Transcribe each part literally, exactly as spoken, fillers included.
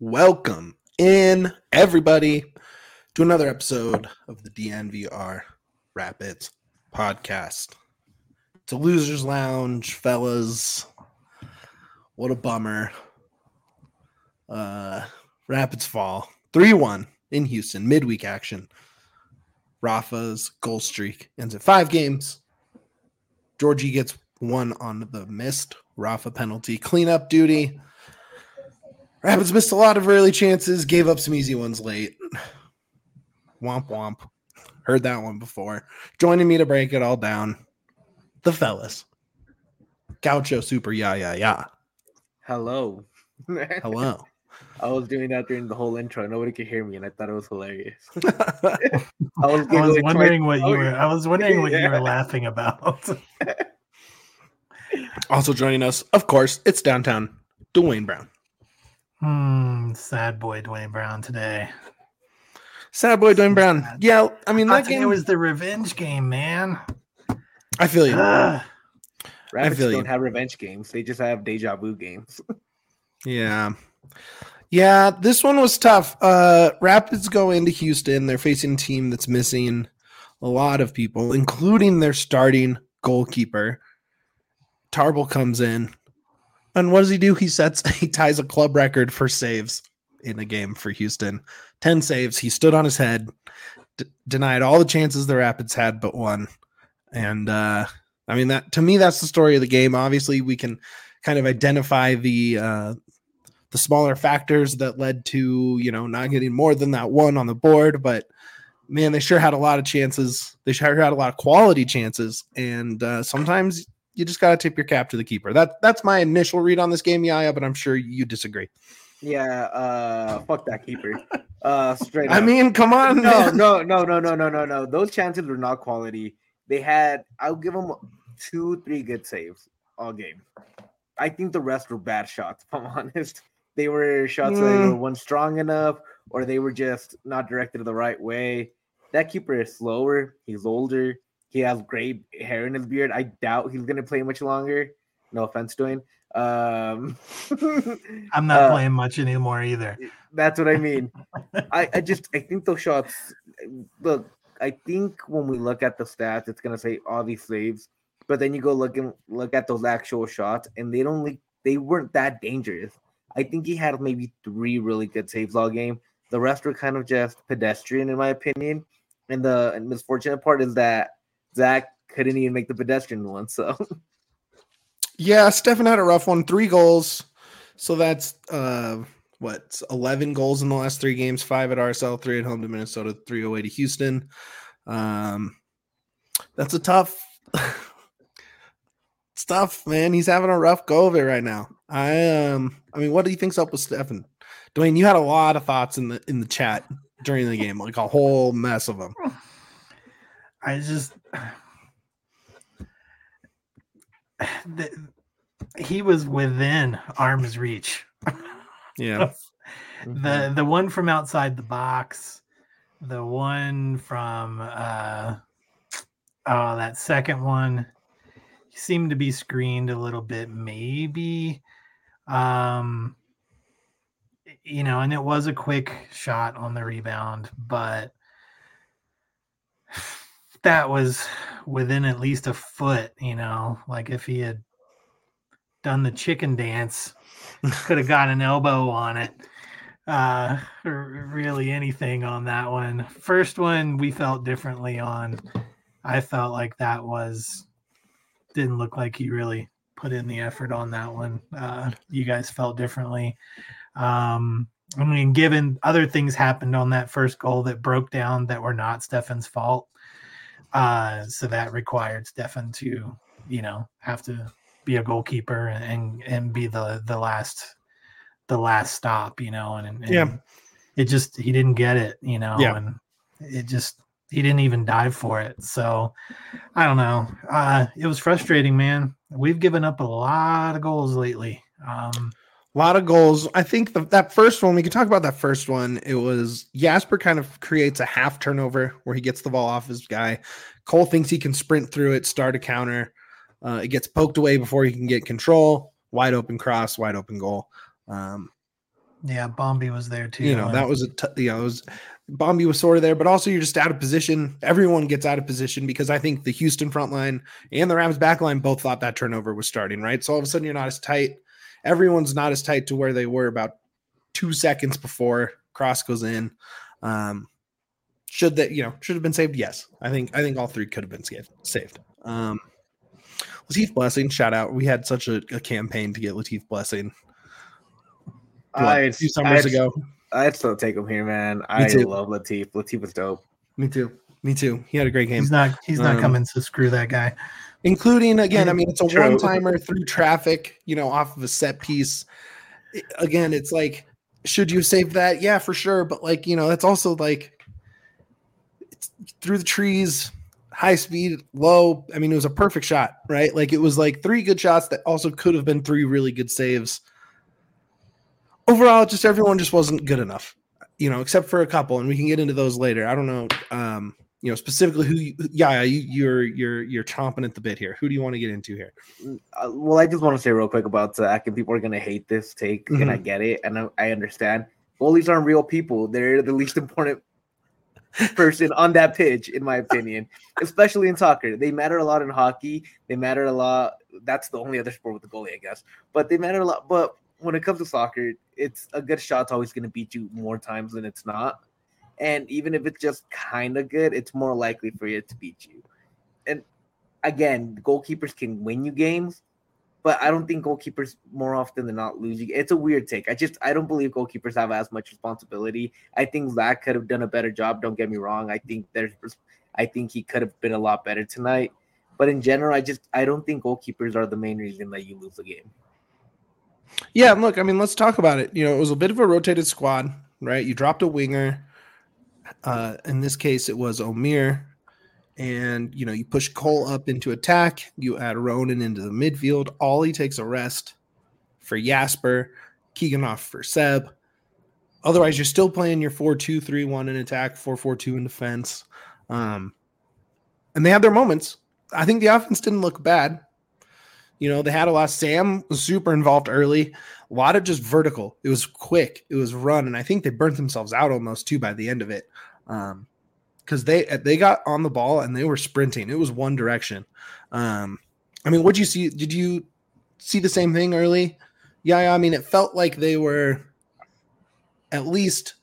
Welcome in, everybody, to another episode of the D N V R Rapids podcast. It's a loser's lounge, fellas. What a bummer. Uh, Rapids fall three one in Houston, midweek action. Rafa's goal streak ends at five games. Georgie gets one on the missed Rafa penalty cleanup duty. Rapids missed a lot of early chances, gave up some easy ones late. Womp womp. Heard that one before. Joining me to break it all down, the fellas. Gaucho Super Ya Ya Ya. Hello. Hello. I was doing that during the whole intro. Nobody could hear me, and I thought it was hilarious. I was, I was wondering what you were. I was wondering what yeah. you were laughing about. Also joining us, of course, it's downtown Dwayne Brown. Hmm. Sad boy Dwayne Brown today. Sad boy Dwayne Brown. Sad. Yeah, I mean I that game it was the revenge game, man. I feel you. Ugh. Rapids feel don't you. have revenge games. They just have deja vu games. Yeah. Yeah, this one was tough. Uh, Rapids go into Houston. They're facing a team that's missing a lot of people, including their starting goalkeeper. Tarble comes in. And what does he do? He sets, he ties a club record for saves in a game for Houston. ten saves. He stood on his head, d- denied all the chances the Rapids had but one. And, uh, I mean, that to me, that's the story of the game. Obviously, we can kind of identify the uh, the smaller factors that led to, you know, not getting more than that one on the board. But, man, they sure had a lot of chances. They sure had a lot of quality chances. And uh, sometimes you just got to tip your cap to the keeper. That That's my initial read on this game, Yaya, but I'm sure you disagree. Yeah, uh, fuck that keeper. Uh, straight up. I mean, come on. no, man. no, no, no, no, no, no, no. Those chances were not quality. They had, I'll give them two, three good saves all game. I think the rest were bad shots, if I'm honest. They were shots Mm. that they were one strong enough, or they were just not directed the right way. That keeper is slower. He's older. He has gray hair in his beard. I doubt he's going to play much longer. No offense to him. Um, I'm not uh, playing much anymore either. That's what I mean. I, I just I think those shots. Look, I think when we look at the stats, it's gonna say all these saves, but then you go look and look at those actual shots, and they don't. They weren't that dangerous. I think he had maybe three really good saves all game. The rest were kind of just pedestrian, in my opinion. And the misfortunate part is that Zach couldn't even make the pedestrian one. So. Yeah, Stefan had a rough one. Three goals. So that's uh, what, eleven goals in the last three games. Five at R S L, three at home to Minnesota, three away to Houston. Um, that's a tough. It's tough, man. He's having a rough go of it right now. I um, I mean, what do you think's up with Stefan? Dwayne, you had a lot of thoughts in the in the chat during the game, like a whole mess of them. I just the, he was within arm's reach. Yeah. the the one from outside the box, the one from uh oh that second one seemed to be screened a little bit, maybe. Um you know, and it was a quick shot on the rebound, but that was within at least a foot, you know, like if he had done the chicken dance, could have got an elbow on it. Uh, or really anything on that one. First one we felt differently on. I felt like that was, didn't look like he really put in the effort on that one. Uh, you guys felt differently. Um, I mean, given other things happened on that first goal that broke down that were not Stefan's fault. Uh, so that required Stefan to, you know, have to be a goalkeeper and and be the the last the last stop, you know, and, and Yeah. it just he didn't get it, you know, Yeah. and it just he didn't even dive for it. So I don't know. Uh, it was frustrating, man. We've given up a lot of goals lately. Um, A lot of goals. I think the, that first one, we can talk about that first one. It was Jasper kind of creates a half turnover where he gets the ball off his guy. Cole thinks he can sprint through it, start a counter. Uh, it gets poked away before he can get control. Wide open cross, wide open goal. Um, Yeah, Bombi was there too. You know, that was a t- you know, it was Bombi was sort of there, but also you're just out of position. Everyone gets out of position because I think the Houston front line and the Rams back line both thought that turnover was starting, right? So all of a sudden you're not as tight. Everyone's not as tight to where they were about two seconds before cross goes in. Um, should that, you know, should have been saved? Yes. I think, I think all three could have been saved. saved. Um, Latif Blessing, shout out. We had such a, a campaign to get Latif Blessing what, I, a few summers I'd, ago. I'd still take him here, man. Me I too. love Latif. Latif was dope. Me too. Me too. He had a great game. He's not. He's not Um, coming to screw that guy. Including again, I mean, it's a True. one-timer through traffic, you know, off of a set piece. It- again, it's like, should you save that? Yeah, for sure. But like, you know, that's also like it's through the trees, high speed, low. I mean, it was a perfect shot, right? Like it was like three good shots that also could have been three really good saves. Overall, just everyone just wasn't good enough, you know, except for a couple, and we can get into those later. I don't know, um, you know, specifically who. You, yeah, you, you're you're you're chomping at the bit here. Who do you want to get into here? Uh, well, I just want to say real quick about Zach, and people are going to hate this take, Mhm. and I get it, and I, I understand. Goalies aren't real people. They're the least important person on that pitch, in my opinion, especially in soccer. They matter a lot in hockey. They matter a lot. That's the only other sport with the goalie, I guess. But they matter a lot. But when it comes to soccer, it's a good shot's always going to beat you more times than it's not. And even if it's just kind of good, it's more likely for it to beat you. And again, goalkeepers can win you games, but I don't think goalkeepers more often than not lose you. It's a weird take. I just I don't believe goalkeepers have as much responsibility. I think Zach could have done a better job. Don't get me wrong. I think there's I think he could have been a lot better tonight. But in general, I just I don't think goalkeepers are the main reason that you lose the game. Yeah, look, I mean, let's talk about it. You know, it was a bit of a rotated squad, right? You dropped a winger. Uh, in this case, it was Omir. And, you know, you push Cole up into attack. You add Ronan into the midfield. Ollie takes a rest for Jasper. Keegan off for Seb. Otherwise, you're still playing your four two three one in attack, four four two in defense. Um, and they had their moments. I think the offense didn't look bad. You know, they had a lot. Sam was super involved early. A lot of just vertical. It was quick. It was run. And I think they burnt themselves out almost too by the end of it. Um, because they they got on the ball and they were sprinting. It was one direction. Um, I mean, what'd you see? Did you see the same thing early? Yeah, yeah, I mean, it felt like they were at least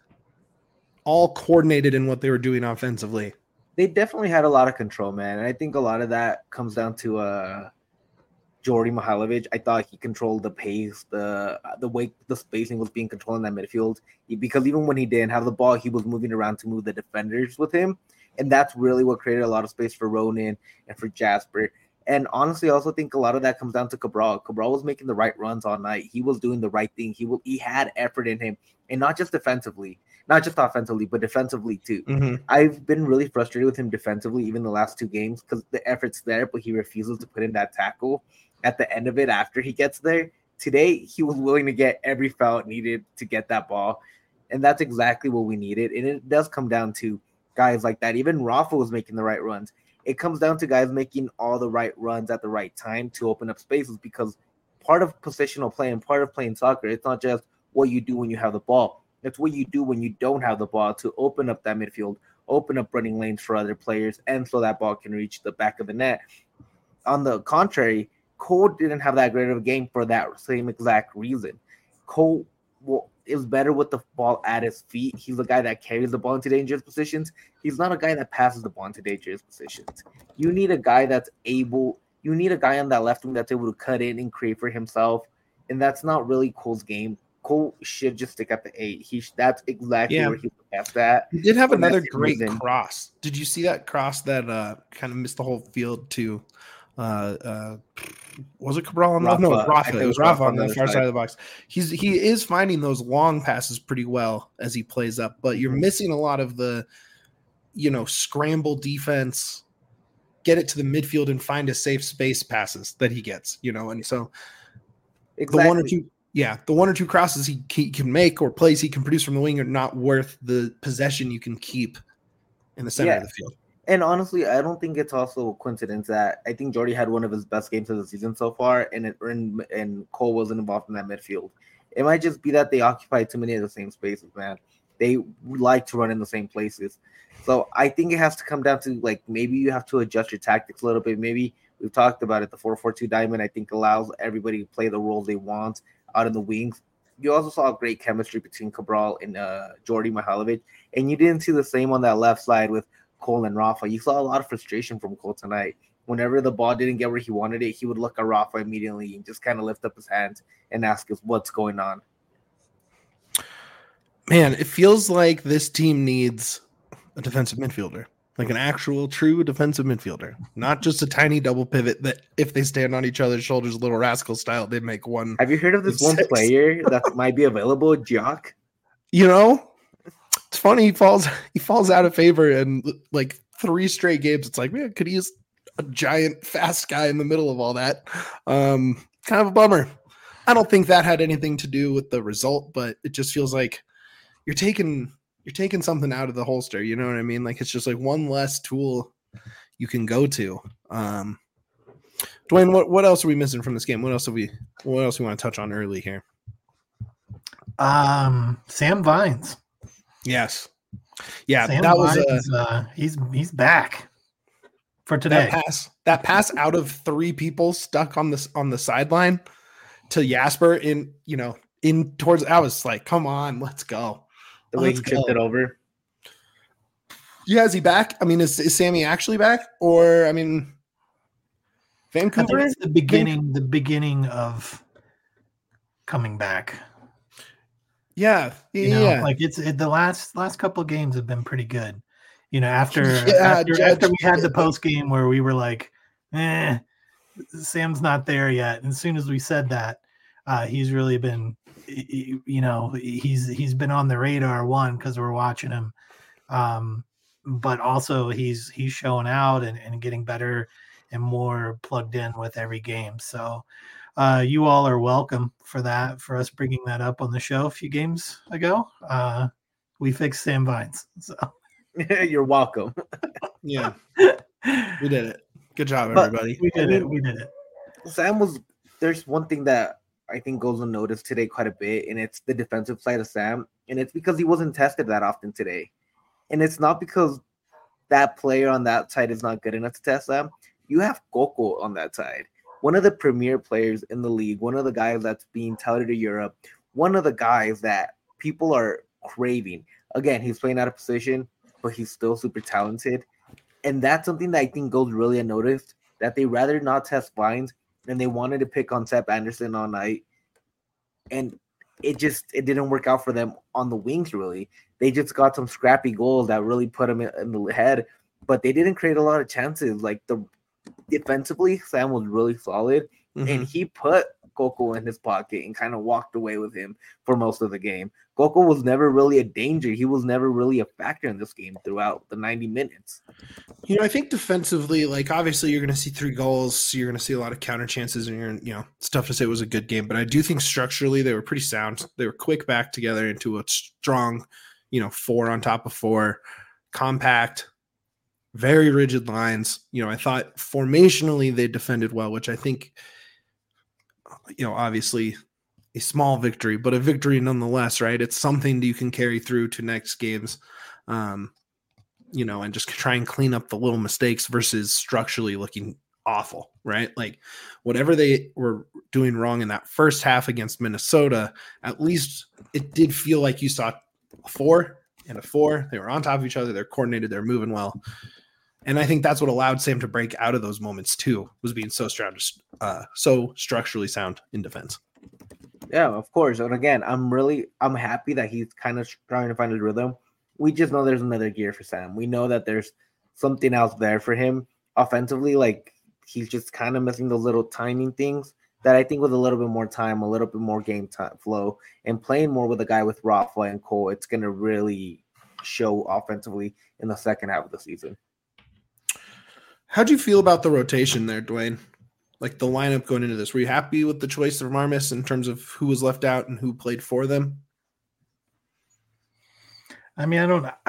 all coordinated in what they were doing offensively. They definitely had a lot of control, man. And I think a lot of that comes down to uh Jordy Mihailovic. I thought he controlled the pace, the the way the spacing was being controlled in that midfield. Because even when he didn't have the ball, he was moving around to move the defenders with him, and that's really what created a lot of space for Ronan and for Jasper. And honestly, I also think a lot of that comes down to Cabral. Cabral was making the right runs all night. He was doing the right thing. He will. He had effort in him, and not just defensively, not just offensively, but defensively too. Mm-hmm. I've been really frustrated with him defensively, even the last two games, because the effort's there, but he refuses to put in that tackle at the end of it after he gets there. Today, he was willing to get every foul it needed to get that ball. And that's exactly what we needed. And it does come down to guys like that. Even Rafa was making the right runs. It comes down to guys making all the right runs at the right time to open up spaces, because part of positional play and part of playing soccer, it's not just what you do when you have the ball. It's what you do when you don't have the ball to open up that midfield, open up running lanes for other players, and so that ball can reach the back of the net. On the contrary, Cole didn't have that great of a game for that same exact reason. Cole well, is better with the ball at his feet. He's the guy that carries the ball into dangerous positions. He's not a guy that passes the ball into dangerous positions. You need a guy that's able – you need a guy on that left wing that's able to cut in and create for himself, and that's not really Cole's game. Cole should just stick at the eight. He That's exactly Yeah. where he's the best at. He did have And another that's the great reason. cross. Did you see that cross that uh, kind of missed the whole field to uh, uh, was it Cabral? On the, no, it was Rafa. I Rafa. think It was Rafa on the other far side. side of the box. He's he is finding those long passes pretty well as he plays up, but you're Mhm. missing a lot of the, you know, scramble defense, get it to the midfield and find a safe space passes that he gets, you know, and so Exactly. the one or two, yeah, the one or two crosses he, he can make or plays he can produce from the wing are not worth the possession you can keep in the center Yeah. of the field. And honestly, I don't think it's also a coincidence that I think Jordy had one of his best games of the season so far, and it, and, and Cole wasn't involved in that midfield. It might just be that they occupy too many of the same spaces, man. They like to run in the same places. So I think it has to come down to, like, maybe you have to adjust your tactics a little bit. Maybe we've talked about it. The four four two diamond, I think, allows everybody to play the roles they want out in the wings. You also saw great chemistry between Cabral and uh, Jordi Mihailovic. And you didn't see the same on that left side with Cole and Rafa. You saw a lot of frustration from Cole tonight. Whenever the ball didn't get where he wanted it, he would look at Rafa immediately and just kind of lift up his hands and ask us what's going on. Man, it feels like this team needs a defensive midfielder, like an actual true defensive midfielder, not just a tiny double pivot that if they stand on each other's shoulders, little rascal style, they make one. Have you heard of this one six. player that might be available, Jock? You know, it's funny. He falls, he falls out of favor and like three straight games. It's like, man, could he use a giant fast guy in the middle of all that? Um, kind of a bummer. I don't think that had anything to do with the result, but it just feels like you're taking you're taking something out of the holster. You know what I mean? Like it's just like one less tool you can go to. Um, Dwayne, what, what else are we missing from this game? What else have we what else we want to touch on early here? Um, Sam Vines. Yes. Yeah, Sam that Vines, was a, uh, he's he's back for today. That pass, that pass out of three people stuck on this on the sideline to Jasper in, you know, in towards I was like, come on, let's go. The way let's he tripped go. it over. Yeah, is he back? I mean, is, is Sammy actually back? Or I mean Vancouver? I think it's the beginning, the beginning of coming back. Yeah, yeah. You know, like it's it, the last last couple of games have been pretty good. You know, after yeah, after, Judge, after we had the post game where we were like, eh, Sam's not there yet. And as soon as we said that, uh, he's really been, you know, he's he's been on the radar, one, because we're watching him, um, but also he's he's showing out and, and getting better and more plugged in with every game. So uh, you all are welcome for that, for us bringing that up on the show a few games ago. Uh, we fixed Sam Vines. So you're welcome. Yeah, we did it. Good job, But everybody. we did it. We did it. Sam was, there's one thing that I think goes unnoticed today quite a bit, and it's the defensive side of Sam. And it's because he wasn't tested that often today. And it's not because that player on that side is not good enough to test Sam. You have Coco on that side, one of the premier players in the league, one of the guys that's being touted to Europe, one of the guys that people are craving. Again, he's playing out of position, but he's still super talented. And that's something that I think goes really unnoticed, that they rather not test Vines, and they wanted to pick on Sepp Anderson all night. And it just it didn't work out for them on the wings, really. They just got some scrappy goals that really put them in, in the head, but they didn't create a lot of chances. Like the defensively, Sam was really solid, mm-hmm. and he put Coco in his pocket and kind of walked away with him for most of the game. Coco was never really a danger. He was never really a factor in this game throughout the ninety minutes. You know, I think defensively, like obviously you're going to see three goals. So you're going to see a lot of counter chances, and you're, you know, it's tough to say it was a good game, but I do think structurally they were pretty sound. They were quick back together into a strong, you know, four on top of four, compact, very rigid lines. You know, I thought formationally they defended well, which I think, you know, obviously a small victory, but a victory nonetheless, right? It's something that you can carry through to next games, um, you know, and just try and clean up the little mistakes versus structurally looking awful, right? Like whatever they were doing wrong in that first half against Minnesota, at least it did feel like you saw a four and a four. They were on top of each other. They're coordinated. They're moving well. And I think that's what allowed Sam to break out of those moments too, was being so strong, uh, so structurally sound in defense. Yeah, of course. And again, I'm really, I'm happy that he's kind of trying to find his rhythm. We just know there's another gear for Sam. We know that there's something else there for him offensively. Like he's just kind of missing those little timing things that I think with a little bit more time, a little bit more game time flow, and playing more with a guy with Rafa and Cole, it's going to really show offensively in the second half of the season. How'd you feel about the rotation there, Dwayne? Like the lineup going into this, were you happy with the choice of Marmis in terms of who was left out and who played for them? I mean, I don't know.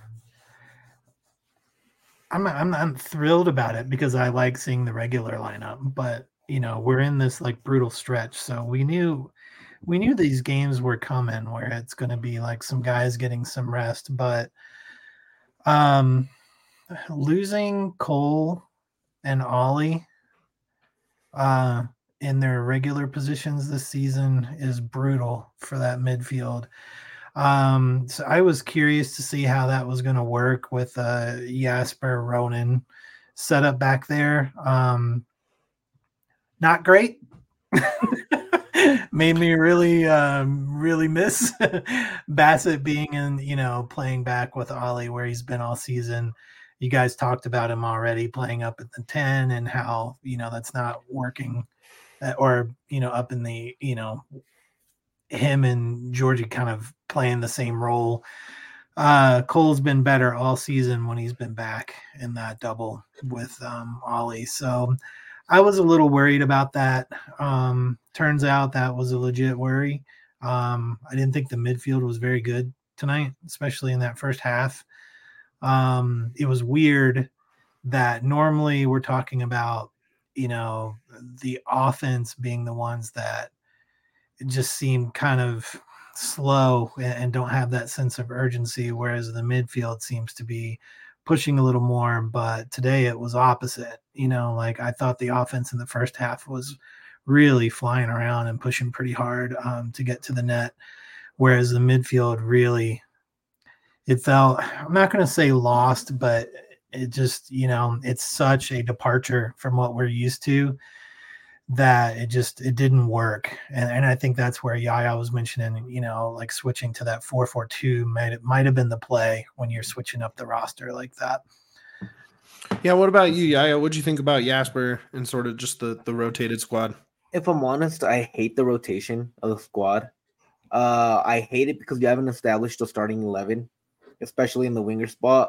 I'm not, I'm not thrilled about it because I like seeing the regular lineup, but you know, we're in this like brutal stretch. So we knew we knew these games were coming where it's going to be like some guys getting some rest, but um, losing Cole and Ollie uh, in their regular positions this season is brutal for that midfield. Um, so I was curious to see how that was going to work with uh, Jasper Ronan set up back there. Um, not great. Made me really, um, really miss Bassett being in, you know, playing back with Ollie where he's been all season. You guys talked about him already playing up at the ten and how, you know, that's not working uh, or, you know, up in the, you know, him and Georgie kind of playing the same role. Uh, Cole's been better all season when he's been back in that double with um, Ollie. So I was a little worried about that. Um, turns out that was a legit worry. Um, I didn't think the midfield was very good tonight, especially in that first half. Um, it was weird that normally we're talking about, you know, the offense being the ones that just seem kind of slow and don't have that sense of urgency, whereas the midfield seems to be pushing a little more. But today it was opposite. You know, like I thought the offense in the first half was really flying around and pushing pretty hard um, to get to the net, whereas the midfield really, it felt, I'm not going to say lost, but it just, you know, it's such a departure from what we're used to that it just, it didn't work. And, and I think that's where Yaya was mentioning, you know, like switching to that four four two might, it might have been the play when you're switching up the roster like that. Yeah. What about you, Yaya? What'd you think about Jasper and sort of just the, the rotated squad? If I'm honest, I hate the rotation of the squad. Uh, I hate it because you haven't established the starting eleven, especially in the winger spot.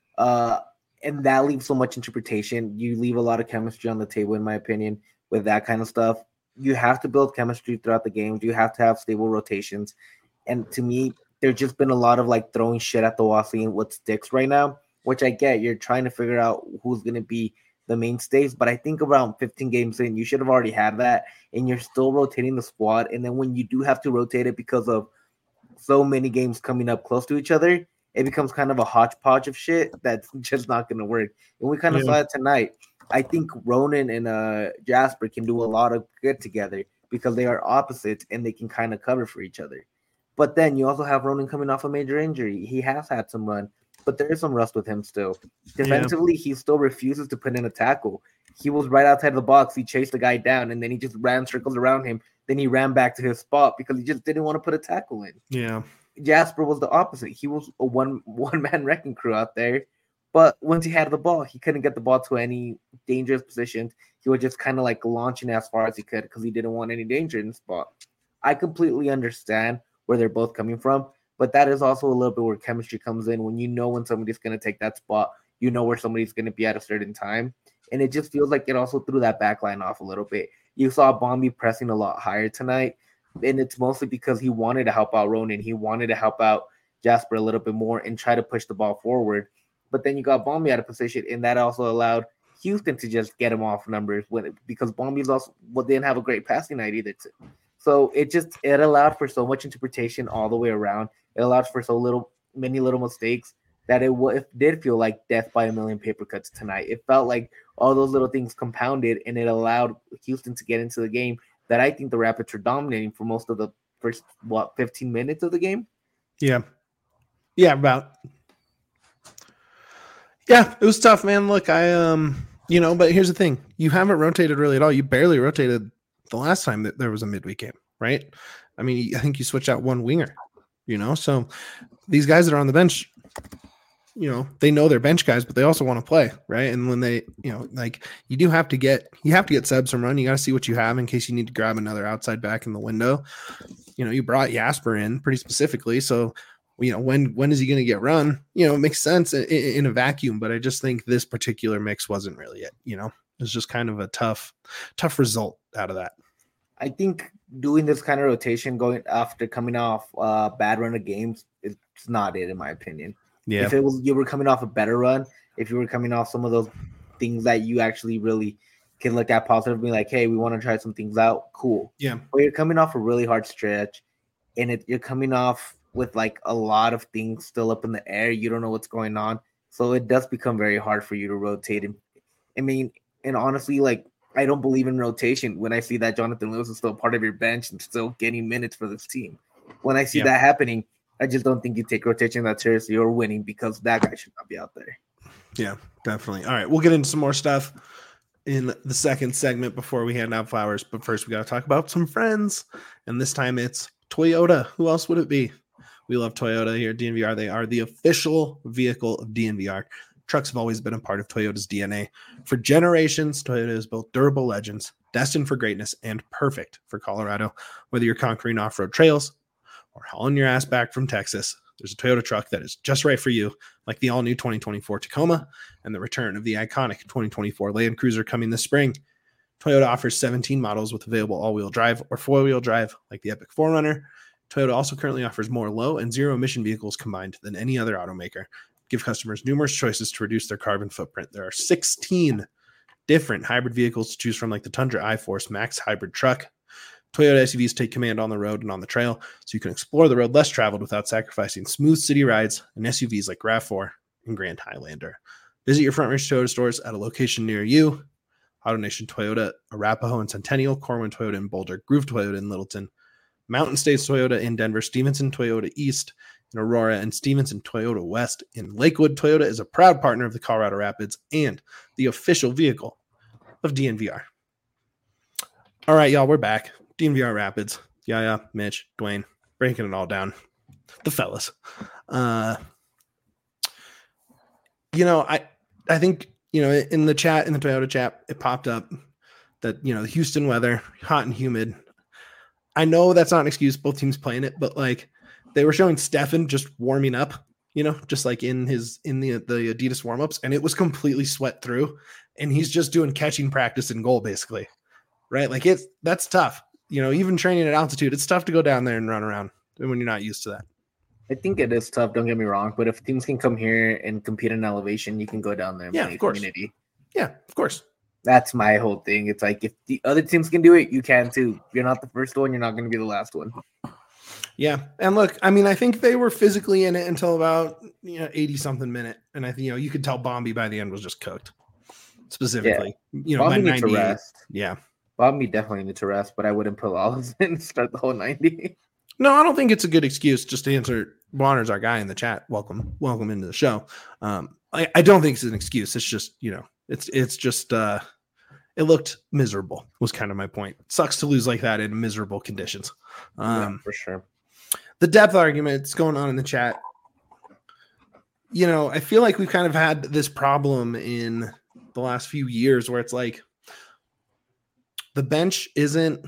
Uh, and that leaves so much interpretation. You leave a lot of chemistry on the table, in my opinion, with that kind of stuff. You have to build chemistry throughout the games. You have to have stable rotations. And to me, there's just been a lot of like throwing shit at the wall, seeing what sticks right now, which I get. You're trying to figure out who's going to be the mainstays, but I think around fifteen games in, you should have already had that, and you're still rotating the squad. And then when you do have to rotate it because of so many games coming up close to each other, it becomes kind of a hodgepodge of shit that's just not going to work. And we kind of yeah. saw it tonight. I think Ronan and uh, Jasper can do a lot of good together because they are opposites and they can kind of cover for each other. But then you also have Ronan coming off a major injury. He has had some run, but there is some rust with him still. Defensively, yeah. he still refuses to put in a tackle. He was right outside the box. He chased the guy down, and then he just ran circles around him. Then he ran back to his spot because he just didn't want to put a tackle in. Yeah. Jasper was the opposite. He was a one, one-man wrecking crew out there. But once he had the ball, he couldn't get the ball to any dangerous positions. He was just kind of like launching as far as he could because he didn't want any danger in the spot. I completely understand where they're both coming from, but that is also a little bit where chemistry comes in. When you know when somebody's going to take that spot, you know where somebody's going to be at a certain time. And it just feels like it also threw that back line off a little bit. You saw Bombi pressing a lot higher tonight, and it's mostly because he wanted to help out Ronan. He wanted to help out Jasper a little bit more and try to push the ball forward. But then you got Bombi out of position, and that also allowed Houston to just get him off numbers when it, because Bombi's also well, didn't have a great passing night either. Too. So it just it allowed for so much interpretation all the way around. It allowed for so little, many little mistakes that it, it did feel like death by a million paper cuts tonight. It felt like all those little things compounded, and it allowed Houston to get into the game that I think the Rapids were dominating for most of the first what fifteen minutes of the game. Yeah, yeah, about. Yeah, it was tough, man. Look, I, um, you know, but here's the thing. You haven't rotated really at all. You barely rotated the last time that there was a midweek game, right? I mean, I think you switched out one winger, you know? So these guys that are on the bench, you know, they know they're bench guys, but they also want to play, right? And when they, you know, like you do have to get, you have to get subs from run. You got to see what you have in case you need to grab another outside back in the window. You know, you brought Jasper in pretty specifically. So, you know, when when is he going to get run? You know, it makes sense in, in a vacuum, but I just think this particular mix wasn't really it. You know, it's just kind of a tough, tough result out of that. I think doing this kind of rotation going after coming off a uh, bad run of games is not it, in my opinion. Yeah. If it was you were coming off a better run, if you were coming off some of those things that you actually really can look at positively, like, hey, we want to try some things out. Cool. Yeah. But you're coming off a really hard stretch, and it, you're coming off with like a lot of things still up in the air. You don't know what's going on. So it does become very hard for you to rotate. And I mean, and honestly, like, I don't believe in rotation when I see that Jonathan Lewis is still part of your bench and still getting minutes for this team. When I see yeah. that happening, I just don't think you take rotation that seriously or winning because that guy should not be out there. Yeah, definitely. All right, we'll get into some more stuff in the second segment before we hand out flowers. But first, we got to talk about some friends. And this time it's Toyota. Who else would it be? We love Toyota here at D N V R. They are the official vehicle of D N V R. Trucks have always been a part of Toyota's D N A. For generations, Toyota has built durable legends, destined for greatness, and perfect for Colorado. Whether you're conquering off-road trails or hauling your ass back from Texas, there's a Toyota truck that is just right for you, like the all-new twenty twenty-four Tacoma and the return of the iconic twenty twenty-four Land Cruiser coming this spring. Toyota offers seventeen models with available all-wheel drive or four-wheel drive, like the Epic four runner. Toyota also currently offers more low and zero emission vehicles combined than any other automaker. Give customers numerous choices to reduce their carbon footprint. There are sixteen different hybrid vehicles to choose from, like the Tundra iForce Max hybrid truck. Toyota S U Vs take command on the road and on the trail, so you can explore the road less traveled without sacrificing smooth city rides and S U Vs like RAV four and Grand Highlander. Visit your Front Range Toyota stores at a location near you. AutoNation Toyota, Arapahoe and Centennial, Corwin Toyota in Boulder, Groove Toyota in Littleton, Mountain States Toyota in Denver, Stevenson Toyota East in Aurora, and Stevenson Toyota West in Lakewood. Toyota is a proud partner of the Colorado Rapids and the official vehicle of D N V R. All right, y'all, we're back. D N V R Rapids. Yaya, Mitch, Dwayne, breaking it all down. The fellas. Uh, you know, I I think, you know, in the chat, in the Toyota chat, it popped up that, you know, the Houston weather, hot and humid. I know that's not an excuse, both teams playing it, but like they were showing Stefan just warming up, you know, just like in his in the the Adidas warmups, and it was completely sweat through, and he's just doing catching practice and goal basically, right? Like it's that's tough, you know. Even training at altitude, it's tough to go down there and run around when you're not used to that. I think it is tough. Don't get me wrong, but if teams can come here and compete in elevation, you can go down there and yeah, play of course. community. Yeah, of course. That's my whole thing. It's like if the other teams can do it, you can too. You're not the first one. You're not going to be the last one. Yeah, and look, I mean, I think they were physically in it until about you know eighty something minute, and I think you know you could tell Bombi by the end was just cooked. Specifically, yeah. you know, Bombi by needs to rest. Yeah, Bombi definitely needs to rest, but I wouldn't put Olives in and start the whole ninety. No, I don't think it's a good excuse. Just to answer, Warner's our guy in the chat. Welcome, welcome into the show. Um, I, I don't think it's an excuse. It's just you know, it's it's just. uh It looked miserable was kind of my point. It sucks to lose like that in miserable conditions. Um, yeah, for sure. The depth argument that's going on in the chat. You know, I feel like we've kind of had this problem in the last few years where it's like the bench isn't,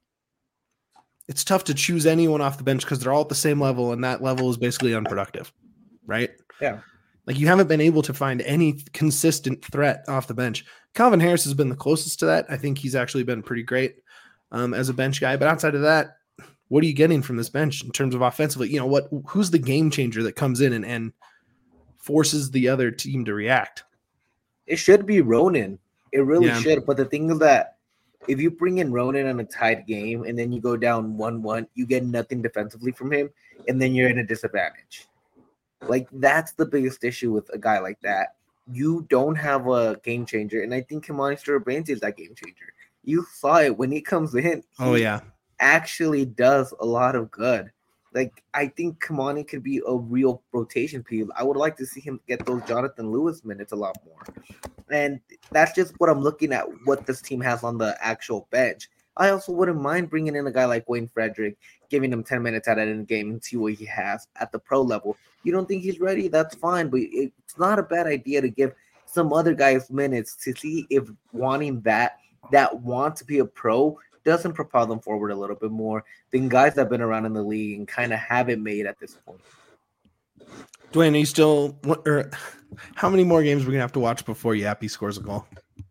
it's tough to choose anyone off the bench because they're all at the same level and that level is basically unproductive, right? Yeah. Like you haven't been able to find any consistent threat off the bench. Calvin Harris has been the closest to that. I think he's actually been pretty great um, as a bench guy. But outside of that, what are you getting from this bench in terms of offensively? You know, what? Who's the game changer that comes in and, and forces the other team to react? It should be Ronan. It really Yeah. should. But the thing is that if you bring in Ronan on a tied game and then you go down one one, you get nothing defensively from him, and then you're in a disadvantage. Like, that's the biggest issue with a guy like that. You don't have a game changer, and I think Kimani Sturbanti is that game changer. You saw it when he comes in. Oh, he yeah. actually does a lot of good. Like, I think Kimani could be a real rotation piece. I would like to see him get those Jonathan Lewis minutes a lot more. And that's just what I'm looking at, what this team has on the actual bench. I also wouldn't mind bringing in a guy like Wayne Frederick, giving him ten minutes at end game and see what he has at the pro level. You don't think he's ready? That's fine, but it's not a bad idea to give some other guys minutes to see if wanting that, that want to be a pro doesn't propel them forward a little bit more than guys that have been around in the league and kind of have it made at this point. Dwayne, are you still, or how many more games are we going to have to watch before Yappy scores a goal?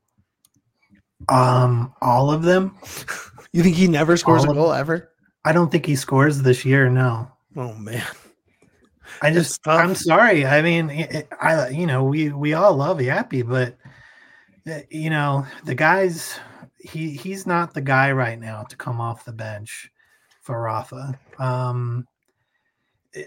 Um, all of them. You think he never scores All a goal ever? I don't think he scores this year. No. Oh man, I just, I'm sorry. I mean, it, I, you know, we, we all love Yappy, but you know, the guys, he he's not the guy right now to come off the bench for Rafa. Um, it,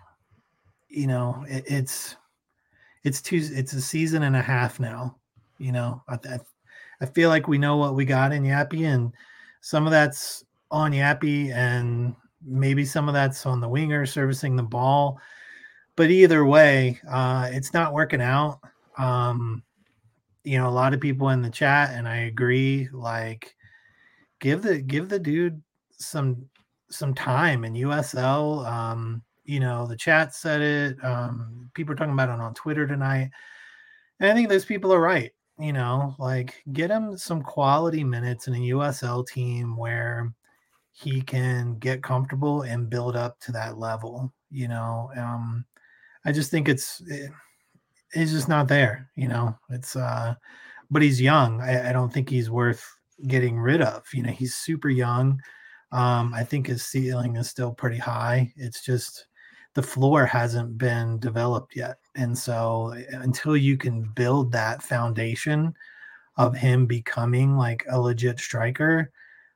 you know, it, it's it's two it's a season and a half now. You know, I, I I feel like we know what we got in Yappy, and some of that's on Yappy, and maybe some of that's on the winger servicing the ball. But either way, uh, it's not working out. Um, you know, a lot of people in the chat, and I agree, like give the give the dude some some time in U S L. Um, you know, the chat said it. Um, people are talking about it on Twitter tonight. And I think those people are right. You know, like get him some quality minutes in a U S L team where he can get comfortable and build up to that level. You know, um, I just think it's it, it's just not there. You know, it's uh, but he's young. I, I don't think he's worth getting rid of. You know, he's super young. Um, I think his ceiling is still pretty high. It's just the floor hasn't been developed yet. And so until you can build that foundation of him becoming like a legit striker,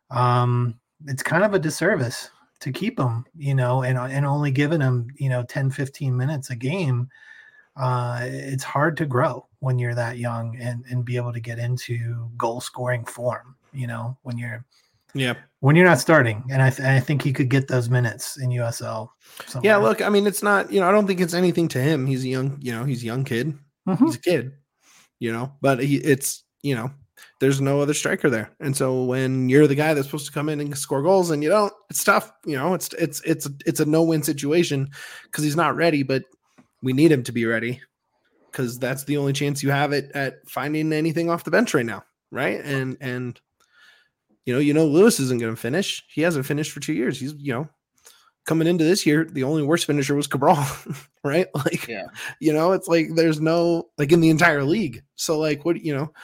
um, it's kind of a disservice to keep him, you know, and, and only giving him, you know, ten, fifteen minutes a game. Uh, it's hard to grow when you're that young and, and be able to get into goal scoring form, you know, when you're, yeah, when you're not starting. And I, th- I think he could get those minutes in U S L. Somewhere. Yeah, look, I mean, it's not, you know, I don't think it's anything to him. He's a young, you know, he's a young kid. Mm-hmm. He's a kid, you know, but he, it's, you know, there's no other striker there. And so when you're the guy that's supposed to come in and score goals and you don't, it's tough, you know, it's, it's, it's, it's a no-win situation because he's not ready, but we need him to be ready because that's the only chance you have at, at finding anything off the bench right now. Right. And, and, you know, you know, Lewis isn't going to finish. He hasn't finished for two years. He's, you know, coming into this year, the only worst finisher was Cabral, right? Like, yeah. You know, it's like there's no, like in the entire league. So, like, what, you know,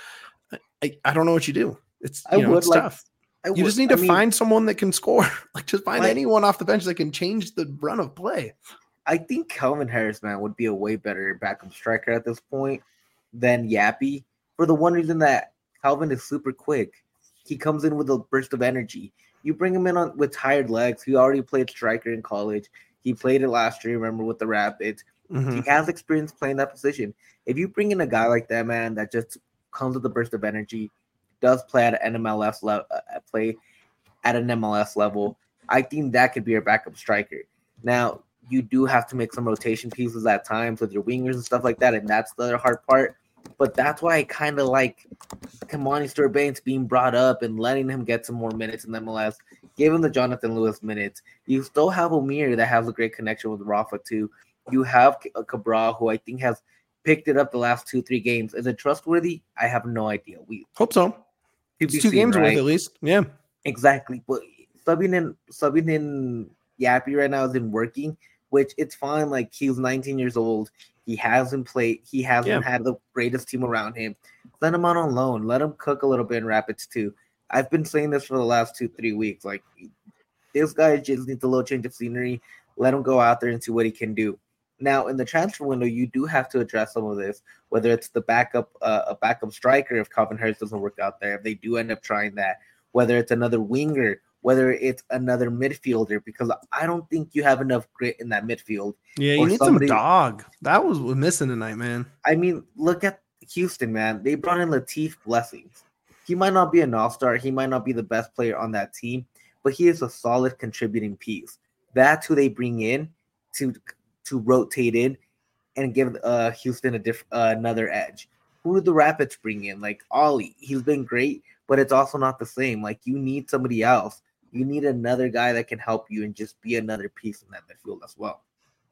I, I don't know what you do. It's, you I know, would it's like, tough. I you would, just need to I mean, find someone that can score. Like, just find like, anyone off the bench that can change the run of play. I think Calvin Harris, man, would be a way better backup striker at this point than Yappy for the one reason that Calvin is super quick. He comes in with a burst of energy. You bring him in on with tired legs. He already played striker in college. He played it last year, remember, with the Rapids. Mm-hmm. He has experience playing that position. If you bring in a guy like that, man, that just comes with a burst of energy, does play at an M L S level, uh, play at an M L S level, I think that could be your backup striker. Now, you do have to make some rotation pieces at times with your wingers and stuff like that, and that's the other hard part. But that's why I kind of like Kimani Stewart-Baines being brought up and letting him get some more minutes in M L S. Give him the Jonathan Lewis minutes. You still have Amir that has a great connection with Rafa too. You have Cabral, who I think has picked it up the last two, three games. Is it trustworthy? I have no idea. We hope so. It's two games right? worth at least. Yeah, exactly. But subbing in, subbing in Yappy right now isn't working, which it's fine. Like he's nineteen years old. He hasn't played. He hasn't yeah. had the greatest team around him. Let him out on loan. Let him cook a little bit in Rapids too. I've been saying this for the last two, three weeks. Like this guy just needs a little change of scenery. Let him go out there and see what he can do. Now, in the transfer window, you do have to address some of this. Whether it's the backup, uh, a backup striker, if Calvin Harris doesn't work out there, if they do end up trying that. Whether it's another winger. Whether it's another midfielder, because I don't think you have enough grit in that midfield. Yeah, you need somebody, some dog. That was missing tonight, man. I mean, look at Houston, man. They brought in Latif Blessings. He might not be an all-star. He might not be the best player on that team, but he is a solid contributing piece. That's who they bring in to to rotate in and give uh, Houston a diff- uh, another edge. Who did the Rapids bring in? Like Ollie. He's been great, but it's also not the same. Like you need somebody else. You need another guy that can help you and just be another piece in that midfield as well.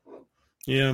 Yeah.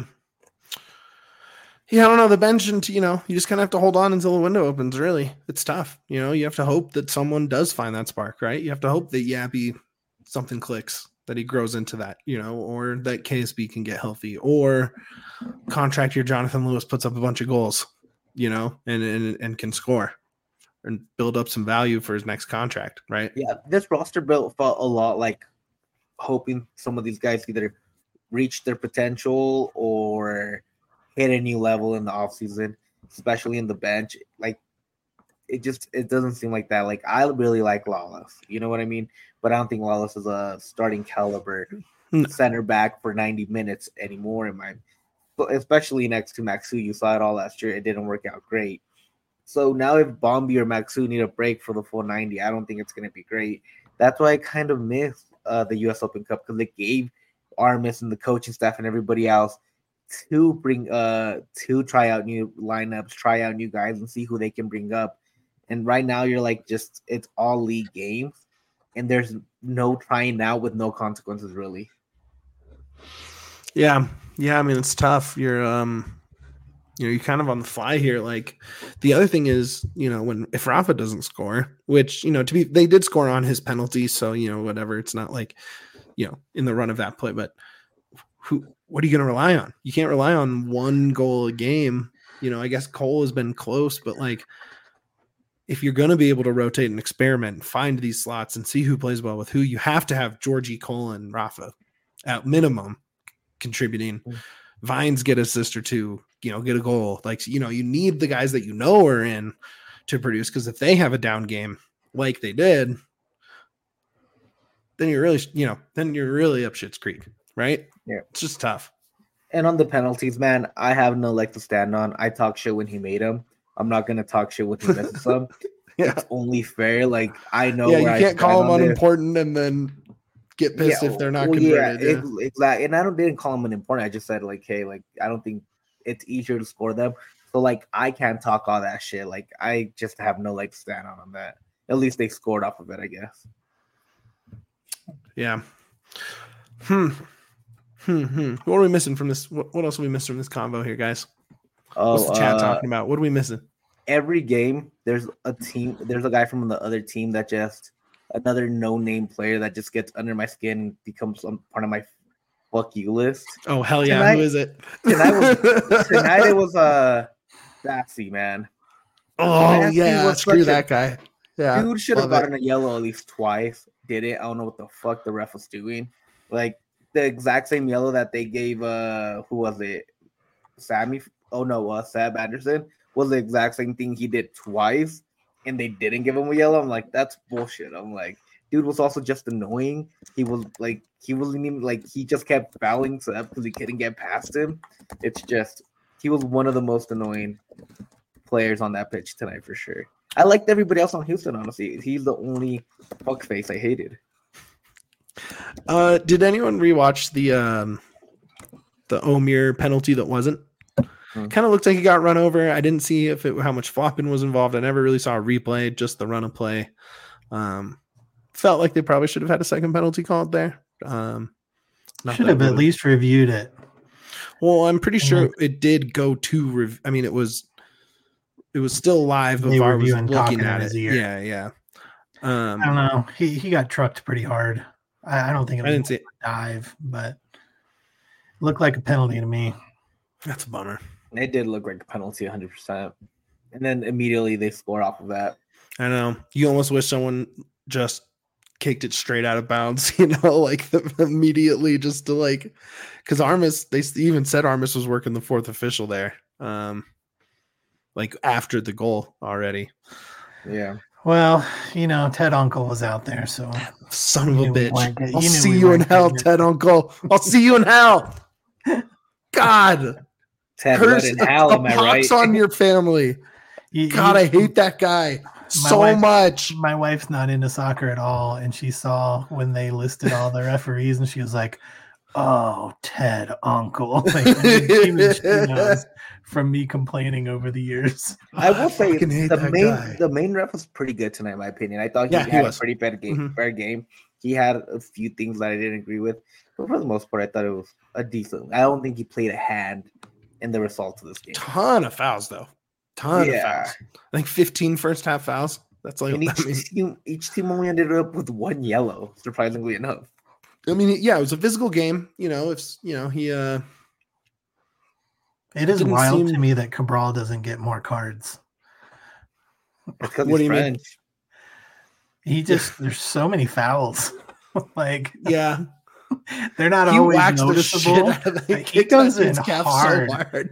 Yeah, I don't know. The bench, and you know, you just kind of have to hold on until the window opens, really. It's tough. You know, you have to hope that someone does find that spark, right? You have to hope that Yappy, something clicks, that he grows into that, you know, or that K S B can get healthy, or contract your Jonathan Lewis puts up a bunch of goals, you know, and and, and can score. And build up some value for his next contract, right? Yeah, this roster build felt a lot like hoping some of these guys either reach their potential or hit a new level in the offseason, especially in the bench. Like it just it doesn't seem like that. Like I really like Lawless, you know what I mean? But I don't think Lawless is a starting caliber No. center back for ninety minutes anymore. In my, especially next to Maxu, you saw it all last year. It didn't work out great. So now if Bombi or Maxu need a break for the full ninety, I don't think it's going to be great. That's why I kind of miss uh, the U S Open Cup because it gave Armas and the coaching staff and everybody else to bring uh to try out new lineups, try out new guys, and see who they can bring up. And right now, you're like just it's all league games, and there's no trying out with no consequences really. Yeah, yeah. I mean, it's tough. You're um, you know, you're kind of on the fly here. Like the other thing is, you know, when if Rafa doesn't score, which you know, to be they did score on his penalty, so you know, whatever. It's not like you know in the run of that play, but who? What are you going to rely on? You can't rely on one goal a game. You know, I guess Cole has been close, but like if you're going to be able to rotate and experiment and find these slots and see who plays well with who, you have to have Georgie, Cole, and Rafa at minimum contributing. Mm. Vines get assist or two, you know, get a goal. Like, you know, you need the guys that you know are in to produce because if they have a down game like they did, then you're really, you know, then you're really up Schitt's Creek. Right? Yeah. It's just tough. And on the penalties, man, I have no leg to stand on. I talk shit when he made them. I'm not going to talk shit when he misses them. Yeah. It's only fair. Like, I know Yeah, where you can't I call them on unimportant this. And then get pissed yeah, if they're not well, converted. Yeah, yeah. exactly. And I don't didn't call them unimportant. I just said, like, hey, like, I don't think it's easier to score them. So, like, I can't talk all that shit. Like, I just have no leg to stand on on that. At least they scored off of it, I guess. Yeah. Hmm. Hmm, hmm. What are we missing from this? What, what else are we missing from this convo here, guys? Oh, What's the chat uh, talking about? What are we missing? Every game, there's a team. There's a guy from the other team that just another no-name player that just gets under my skin and becomes some part of my fuck you list. Oh hell yeah! Tonight, Who is it? Tonight, was, tonight it was uh Batsy, man. Oh Batsy yeah, screw that a, guy. Yeah, dude should have gotten it. a yellow at least twice. Did it? I don't know what the fuck the ref was doing. Like. The exact same yellow that they gave uh who was it Sammy oh no uh Seb Anderson was the exact same thing he did twice and they didn't give him a yellow. I'm like, that's bullshit. I'm like, dude was also just annoying. He was like he wasn't even like he just kept fouling Seb because he couldn't get past him. It's just he was one of the most annoying players on that pitch tonight for sure. I liked everybody else on Houston, honestly. He's the only fuckface I hated. Uh, did anyone rewatch the um, the Omir penalty that wasn't? Hmm. Kind of looked like he got run over. I didn't see if it how much flopping was involved. I never really saw a replay, just the run of play. Um, felt like they probably should have had a second penalty called there. Um, should have at least reviewed it. Well, I'm pretty sure mm-hmm. it did go to. Rev- I mean, it was it was still live. But V A R was looking at it. Yeah, yeah. Um, I don't know. He he got trucked pretty hard. I don't think it was I didn't see it. a dive, but it looked like a penalty to me. That's a bummer. It did look like a penalty one hundred percent. And then immediately they scored off of that. I know. You almost wish someone just kicked it straight out of bounds, you know, like the, immediately just to like – because Armas, they even said Armas was working the fourth official there, um, like after the goal already. Yeah. Well, you know, Ted Uncle was out there, so son of a bitch. I'll see you in hell, Ted Uncle. I'll see you in hell. God, Ted Curse in hell. Am I right? on your family. You, God, you, I hate that guy so wife, much. My wife's not into soccer at all, and she saw when they listed all the referees, and she was like, "Oh, Ted Uncle." Like, even she knows from me complaining over the years. I will say the main guy. the main ref was pretty good tonight, in my opinion. I thought he yeah, had he a pretty bad game. Mm-hmm. Fair game. He had a few things that I didn't agree with, but for the most part, I thought it was a decent. I don't think he played a hand in the results of this game. Ton of fouls, though. Ton yeah. of fouls. I think fifteen first half fouls. That's like and each, I mean, team, each team only ended up with one yellow, surprisingly enough. I mean, yeah, it was a physical game. You know, if you know he. uh It is wild seem... to me that Cabral doesn't get more cards. Because what do you French. mean? He just there's so many fouls. Like yeah, they're not he always noticeable. He goes in hard. So hard.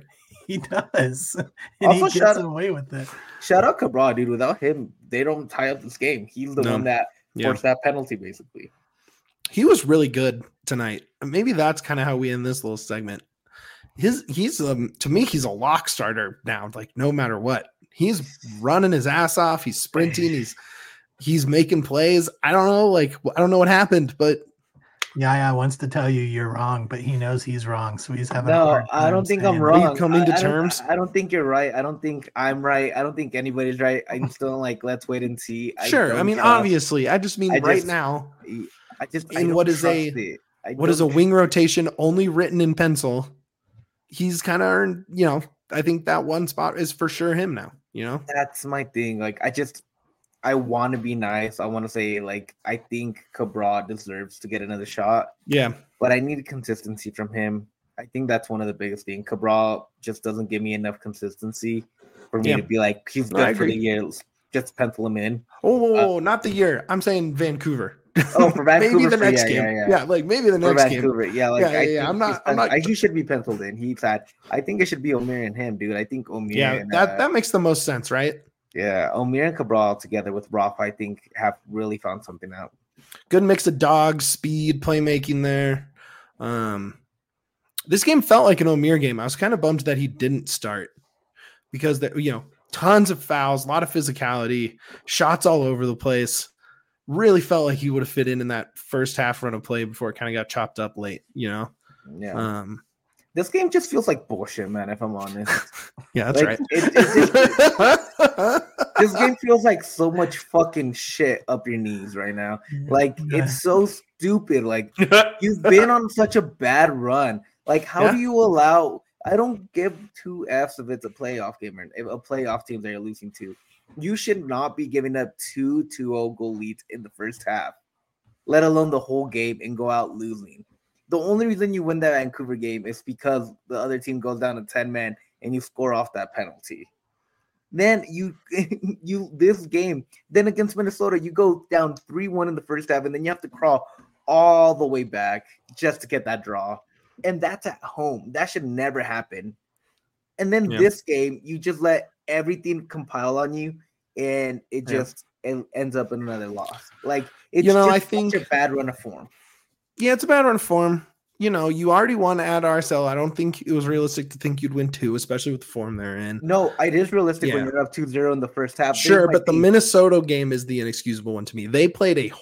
He does. And Also, he shout- gets away with it. Shout out Cabral, dude. Without him, they don't tie up this game. He's the No. one that Yeah. forced that penalty, basically. He was really good tonight. Maybe that's kind of how we end this little segment. His he's um to me he's a lock starter now. Like no matter what, he's running his ass off. He's sprinting. He's he's making plays. I don't know. Like I don't know what happened, but Yaya wants to tell you you're wrong, but he knows he's wrong, so he's having. a No, hard I time don't think saying I'm it. Are you wrong. coming to I, I don't- terms? I don't think you're right. I don't think I'm right. I don't think anybody's right. I'm still like, let's wait and see. I sure. I don't mean, trust- obviously, I just mean I right just- now. I just I in don't what is trust a- it. I What is a don't wing rotation only written in pencil? He's kind of earned. You know, I think that one spot is for sure him now. You know. That's my thing. Like, I just, I want to be nice. I want to say, like, I think Cabral deserves to get another shot, Yeah. but I need consistency from him. I think that's one of the biggest things. Cabral just doesn't give me enough consistency for me Yeah. to be like, he's No, I good for the agree. year. Just pencil him in. Oh, not the year. I'm saying Vancouver. Oh, for maybe Vancouver, the for- next yeah, game. yeah, Yeah, yeah. like maybe the For next game. Vancouver, yeah, like Yeah, yeah, I yeah, think I'm not- he's I'm pen- not- I- he should be penciled in. He's had. I think it should be Omir and him, dude. I think Omir. Yeah, and, that uh, that makes the most sense, right? yeah, Omir and Cabral together with Rafa, I think, have really found something out. Good mix of dogs, speed, playmaking there. Um, this game felt like an Omir game. I was kind of bummed that he didn't start because that you know tons of fouls, a lot of physicality, shots all over the place. Really felt like he would have fit in in that first half run of play before it kind of got chopped up late. You know. Yeah, Um, this game just feels like bullshit, man. If I'm honest, yeah, that's Like, right. it- it just- this game feels like so much fucking shit up your knees right now. Like Yeah. it's so stupid. Like you've been on such a bad run. Like how Yeah. do you allow? I don't give two F's if it's a playoff game or if a playoff team they're losing to. You should not be giving up two two oh goal leads in the first half, let alone the whole game and go out losing. The only reason you win that Vancouver game is because the other team goes down to ten men and you score off that penalty. Then you you this game, then against Minnesota, you go down three one in the first half, and then you have to crawl all the way back just to get that draw. And that's at home. That should never happen. And then Yeah. this game, you just let everything compile on you, and it Yeah. just it ends up in another loss. Like it's You know, just I such think- a bad run of form. Yeah, it's a bad run form. You know, you already won at R S L. I don't think it was realistic to think you'd win two, especially with the form they're in. No, it is realistic when Yeah. you're up two zero in the first half. Sure, Things might but the be- Minnesota game is the inexcusable one to me. They played a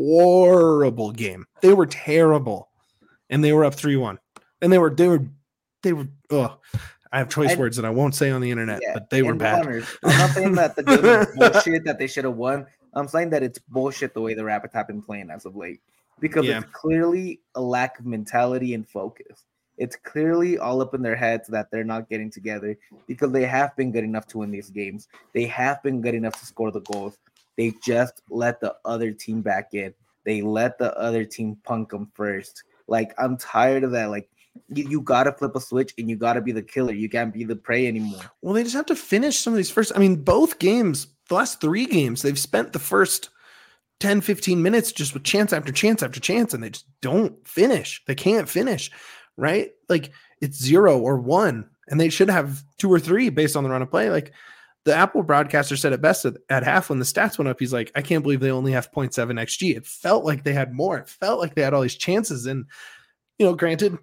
horrible game. They were terrible, and they were up three one. And they were they were they were. Oh, I have choice And- words that I won't say on the internet, Yeah, but they were and bad. Runners. I'm not saying that the game is bullshit that they should have won. I'm saying that it's bullshit the way the Rapids have been playing as of late because Yeah. it's clearly a lack of mentality and focus. It's clearly all up in their heads that they're not getting together because they have been good enough to win these games. They have been good enough to score the goals. They just let the other team back in. They let the other team punk them first. Like, I'm tired of that. Like, you, you got to flip a switch and you got to be the killer. You can't be the prey anymore. Well, they just have to finish some of these first. I mean, both games, the last three games, they've spent the first ten, fifteen minutes just with chance after chance after chance, and they just don't finish. They can't finish, right? Like it's zero or one, and they should have two or three based on the run of play. Like the Apple broadcaster said it best at, at half when the stats went up. He's like, I can't believe they only have zero point seven X G. It felt like they had more. It felt like they had all these chances. And, you know, granted,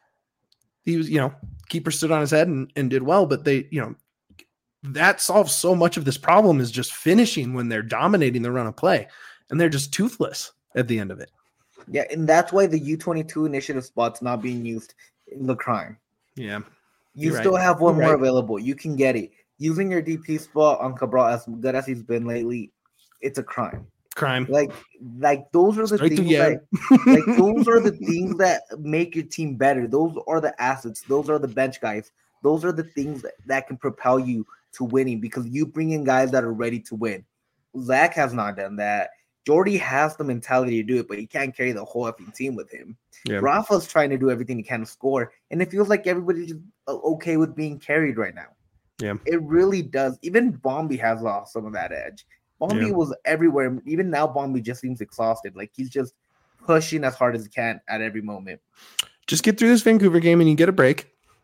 he was, you know, keeper stood on his head and, and did well, but they, you know, that solves so much of this problem is just finishing when they're dominating the run of play, and they're just toothless at the end of it. Yeah, and that's why the U twenty-two initiative spot's not being used in the crime. Yeah. You You're still right. have one You're more right. available. You can get it. Using your D P spot on Cabral as good as he's been lately, it's a crime. Crime. Like, like those are the Straight to things yeah. that, like those are the things that make your team better. Those are the assets. Those are the bench guys. Those are the things that, that can propel you to winning because you bring in guys that are ready to win. Zach has not done that. Jordy has the mentality to do it, but he can't carry the whole effing team with him. Yeah. Rafa's trying to do everything he can to score, and it feels like everybody's just uh, okay with being carried right now. Yeah. It really does. Even Bombi has lost some of that edge. Bombi Yeah. was everywhere. Even now, Bombi just seems exhausted. Like he's just pushing as hard as he can at every moment. Just get through this Vancouver game and you get a break.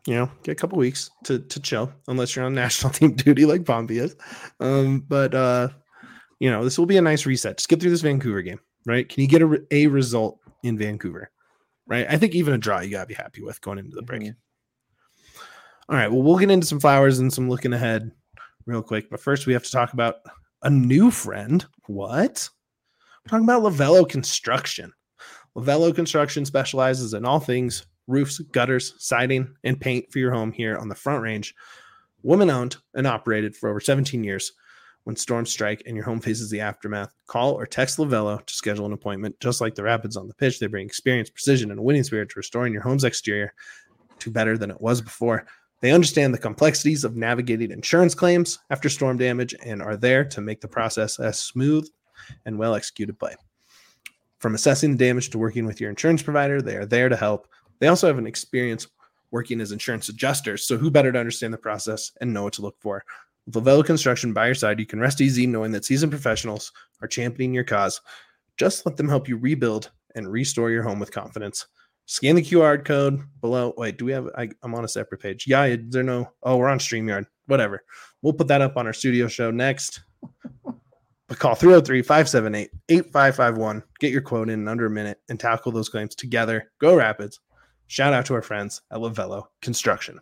you know, get a couple weeks to to chill, unless you're on national team duty like Pompey is. Um, but uh, you know, this will be a nice reset. Just get through this Vancouver game, right? Can you get a, a result in Vancouver, right? I think even a draw you gotta be happy with going into the break. Mm-hmm. All right, well, we'll get into some flowers and some looking ahead real quick, but first we have to talk about a new friend. What? We're talking about Lavello Construction. Lavello Construction specializes in all things roofs, gutters, siding, and paint for your home here on the Front Range. Woman-owned and operated for over seventeen years. When storms strike and your home faces the aftermath, call or text Lavello to schedule an appointment. Just like the Rapids on the pitch, they bring experience, precision, and a winning spirit to restoring your home's exterior to better than it was before. They understand the complexities of navigating insurance claims after storm damage and are there to make the process as smooth and well-executed play. From assessing the damage to working with your insurance provider, they are there to help. They also have an experience working as insurance adjusters, so who better to understand the process and know what to look for? With Lavello Construction by your side, you can rest easy knowing that seasoned professionals are championing your cause. Just let them help you rebuild and restore your home with confidence. Scan the Q R code below. Wait, do we have, I, I'm on a separate page. Yeah, is there no, oh, we're on StreamYard. Whatever. We'll put that up on our studio show next. But call three oh three, five seven eight, eight five five one. Get your quote in, in under a minute and tackle those claims together. Go Rapids. Shout out to our friends at Lavello Construction.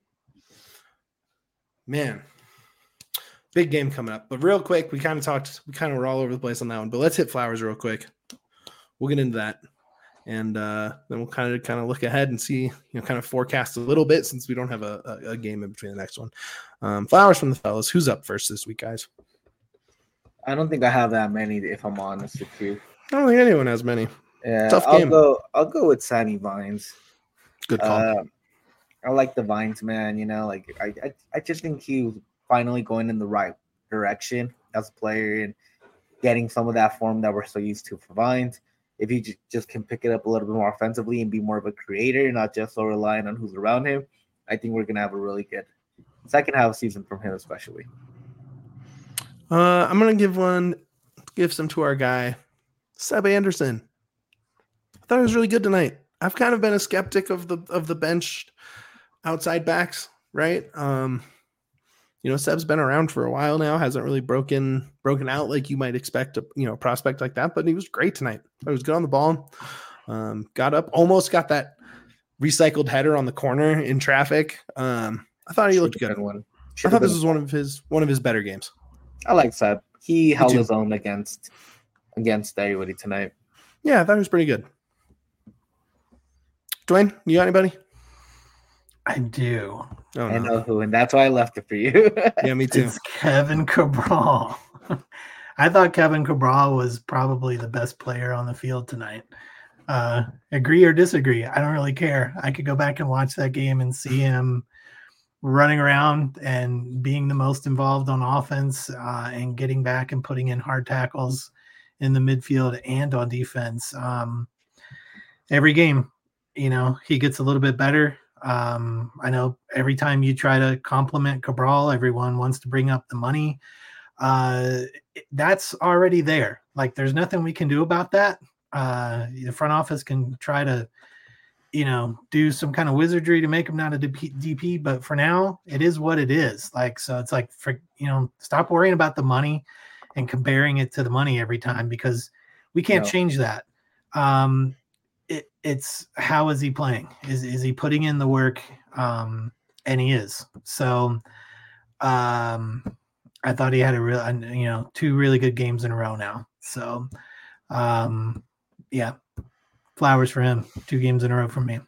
Man, big game coming up. But real quick, we kind of talked, we kind of were all over the place on that one. But let's hit flowers real quick. We'll get into that. And uh, then we'll kind of kind of look ahead and see, you know, kind of forecast a little bit since we don't have a, a, a game in between the next one. Um, flowers from the fellas. Who's up first this week, guys? I don't think I have that many, if I'm honest with you. I don't think anyone has many. Yeah, tough I'll game. go. I'll go with Sammy Vines. Good call. Uh, I like the Vines, man. You know, like I, I, I just think he's finally going in the right direction as a player and getting some of that form that we're so used to for Vines. If he j- just can pick it up a little bit more offensively and be more of a creator, not just so reliant on who's around him, I think we're gonna have a really good second half season from him, especially. Uh, I'm gonna give one, give some to our guy, Seb Anderson. I thought he was really good tonight. I've kind of been a skeptic of the of the bench outside backs, right? Um, you know, Seb's been around for a while now, hasn't really broken broken out like you might expect a you know prospect like that, but he was great tonight. He was good on the ball. Um, got up, almost got that recycled header on the corner in traffic. Um, I thought he Should looked good. One. I thought this was one of his one of his better games. I like Seb. He held his own against against everybody tonight. Yeah, I thought he was pretty good. Dwayne, you got anybody? I do. Oh, I no. know who, and that's why I left it for you. Yeah, me too. It's Kevin Cabral. I thought Kevin Cabral was probably the best player on the field tonight. Uh, agree or disagree, I don't really care. I could go back and watch that game and see him running around and being the most involved on offense uh, and getting back and putting in hard tackles in the midfield and on defense. Um, every game, you know, he gets a little bit better. Um, I know every time you try to compliment Cabral, everyone wants to bring up the money. Uh, that's already there. Like, there's nothing we can do about that. Uh, the front office can try to, you know, do some kind of wizardry to make him not a D P, but for now, it is what it is. Like, so it's like, for, you know, stop worrying about the money and comparing it to the money every time, because we can't no. change that. Um, It, it's how is he playing? Is is he putting in the work? Um, and he is. So um, I thought he had a real, you know, two really good games in a row now. So um, yeah, flowers for him. Two games in a row from me.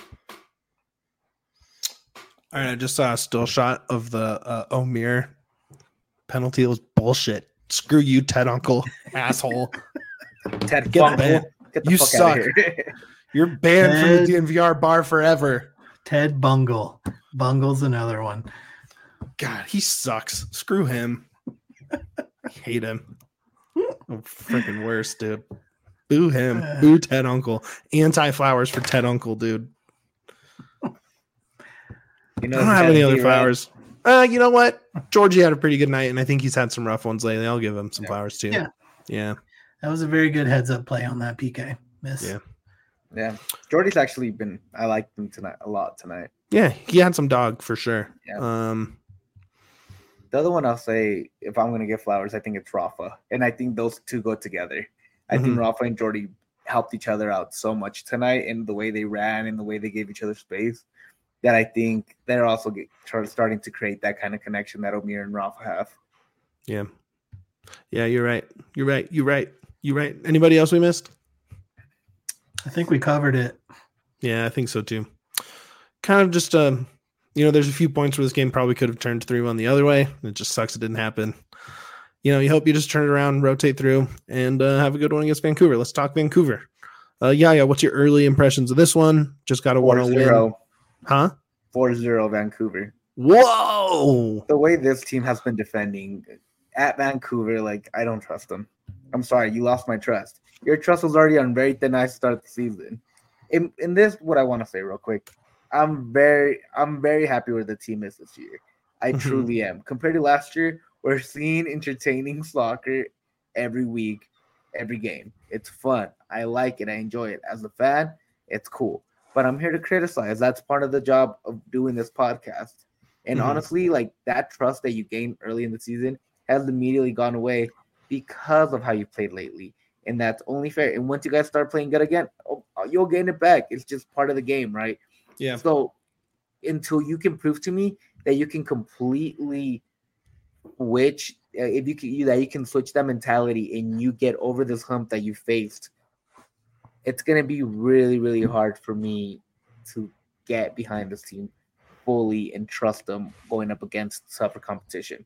All right, I just saw a still shot of the uh, Omir penalty. It was bullshit. Screw you, Ted Uncle, asshole. Ted Get banned. Get the you fuck suck. Out of here. You're banned Ted, from the D N V R bar forever. Ted Bungle. Bungle's another one. God, he sucks. Screw him. I hate him. Oh, freaking worse, dude. Boo him. Uh, Boo Ted Uncle. Anti-flowers for Ted Uncle, dude. You know, I don't have any other flowers. Uh, you know what? Georgie had a pretty good night, and I think he's had some rough ones lately. I'll give him some yeah. flowers, too. Yeah. Yeah. That was a very good heads-up play on that P K miss. Yeah. Yeah. Jordy's actually been – I liked him tonight a lot tonight. Yeah, he had some dog for sure. Yeah. Um, the other one I'll say, if I'm going to give flowers, I think it's Rafa. And I think those two go together. I mm-hmm. think Rafa and Jordy helped each other out so much tonight in the way they ran and the way they gave each other space that I think they're also get, starting to create that kind of connection that Omier and Rafa have. Yeah. Yeah, you're right. You're right. You're right. You're right. Anybody else we missed? I think we covered it. Yeah, I think so too. Kind of just, um, you know, there's a few points where this game probably could have turned three one the other way. It just sucks it didn't happen. You know, you hope you just turn it around, rotate through, and uh, have a good one against Vancouver. Let's talk Vancouver. Uh, yeah, yeah. What's your early impressions of this one? Just got a one oh win. Huh? four zero Vancouver. Whoa! The way this team has been defending at Vancouver, like, I don't trust them. I'm sorry, you lost my trust. Your trust was already on very thin ice to start the season. In in this, what I want to say real quick, I'm very I'm very happy where the team is this year. I mm-hmm. truly am. Compared to last year, we're seeing entertaining soccer every week, every game. It's fun. I like it. I enjoy it. As a fan, it's cool. But I'm here to criticize. That's part of the job of doing this podcast. And mm-hmm. honestly, like, that trust that you gained early in the season has immediately gone away because of how you played lately. And that's only fair. And once you guys start playing good again, oh, you'll gain it back. It's just part of the game, right? Yeah. So until you can prove to me that you can completely switch, uh, if you can, you, that you can switch that mentality and you get over this hump that you faced, it's going to be really, really hard for me to get behind this team fully and trust them going up against tougher competition.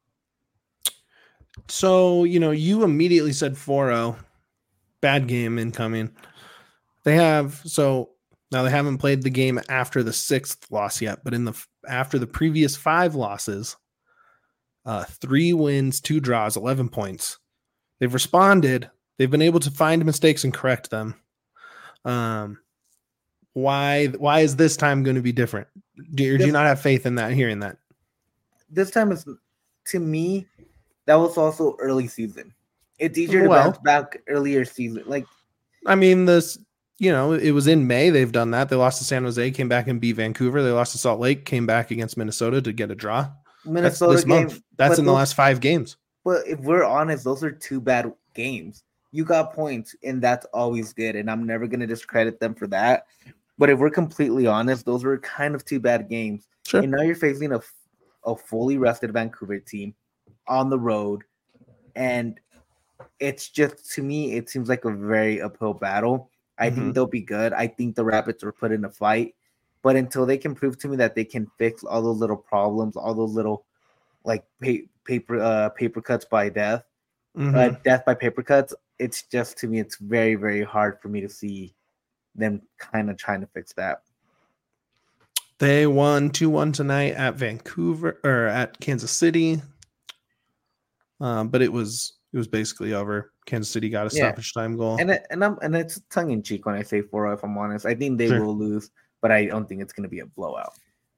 So, you know, you immediately said four oh. Bad game incoming. They have, so now they haven't played the game after the sixth loss yet, but in the after the previous five losses, uh, three wins, two draws, eleven points. They've responded. They've been able to find mistakes and correct them. Um, why why is this time going to be different? Do, you, do you not have faith in that, hearing that? This time is, to me, that was also early season. It's easier to well, bounce back earlier season. Like, I mean, this, you know, it was in May. They've done that. They lost to San Jose, came back and beat Vancouver. They lost to Salt Lake, came back against Minnesota to get a draw. Minnesota That's this game, month. That's in those, the last five games. But if we're honest, those are two bad games. You got points, and that's always good. And I'm never going to discredit them for that. But if we're completely honest, those were kind of two bad games. Sure. And now you're facing a, a fully rested Vancouver team on the road. And it's just, to me, it seems like a very uphill battle. I mm-hmm. think they'll be good. I think the Rapids are put in a fight. But until they can prove to me that they can fix all those little problems, all those little, like, pay, paper uh, paper cuts by death, mm-hmm. uh, death by paper cuts, it's just, to me, it's very, very hard for me to see them kind of trying to fix that. They won two one tonight at Vancouver, or at Kansas City. Um, but it was it was basically over. Kansas City got a stoppage yeah. time goal, and it, and I'm and it's tongue in cheek when I say four. If I'm honest, I think they sure. will lose, but I don't think it's going to be a blowout.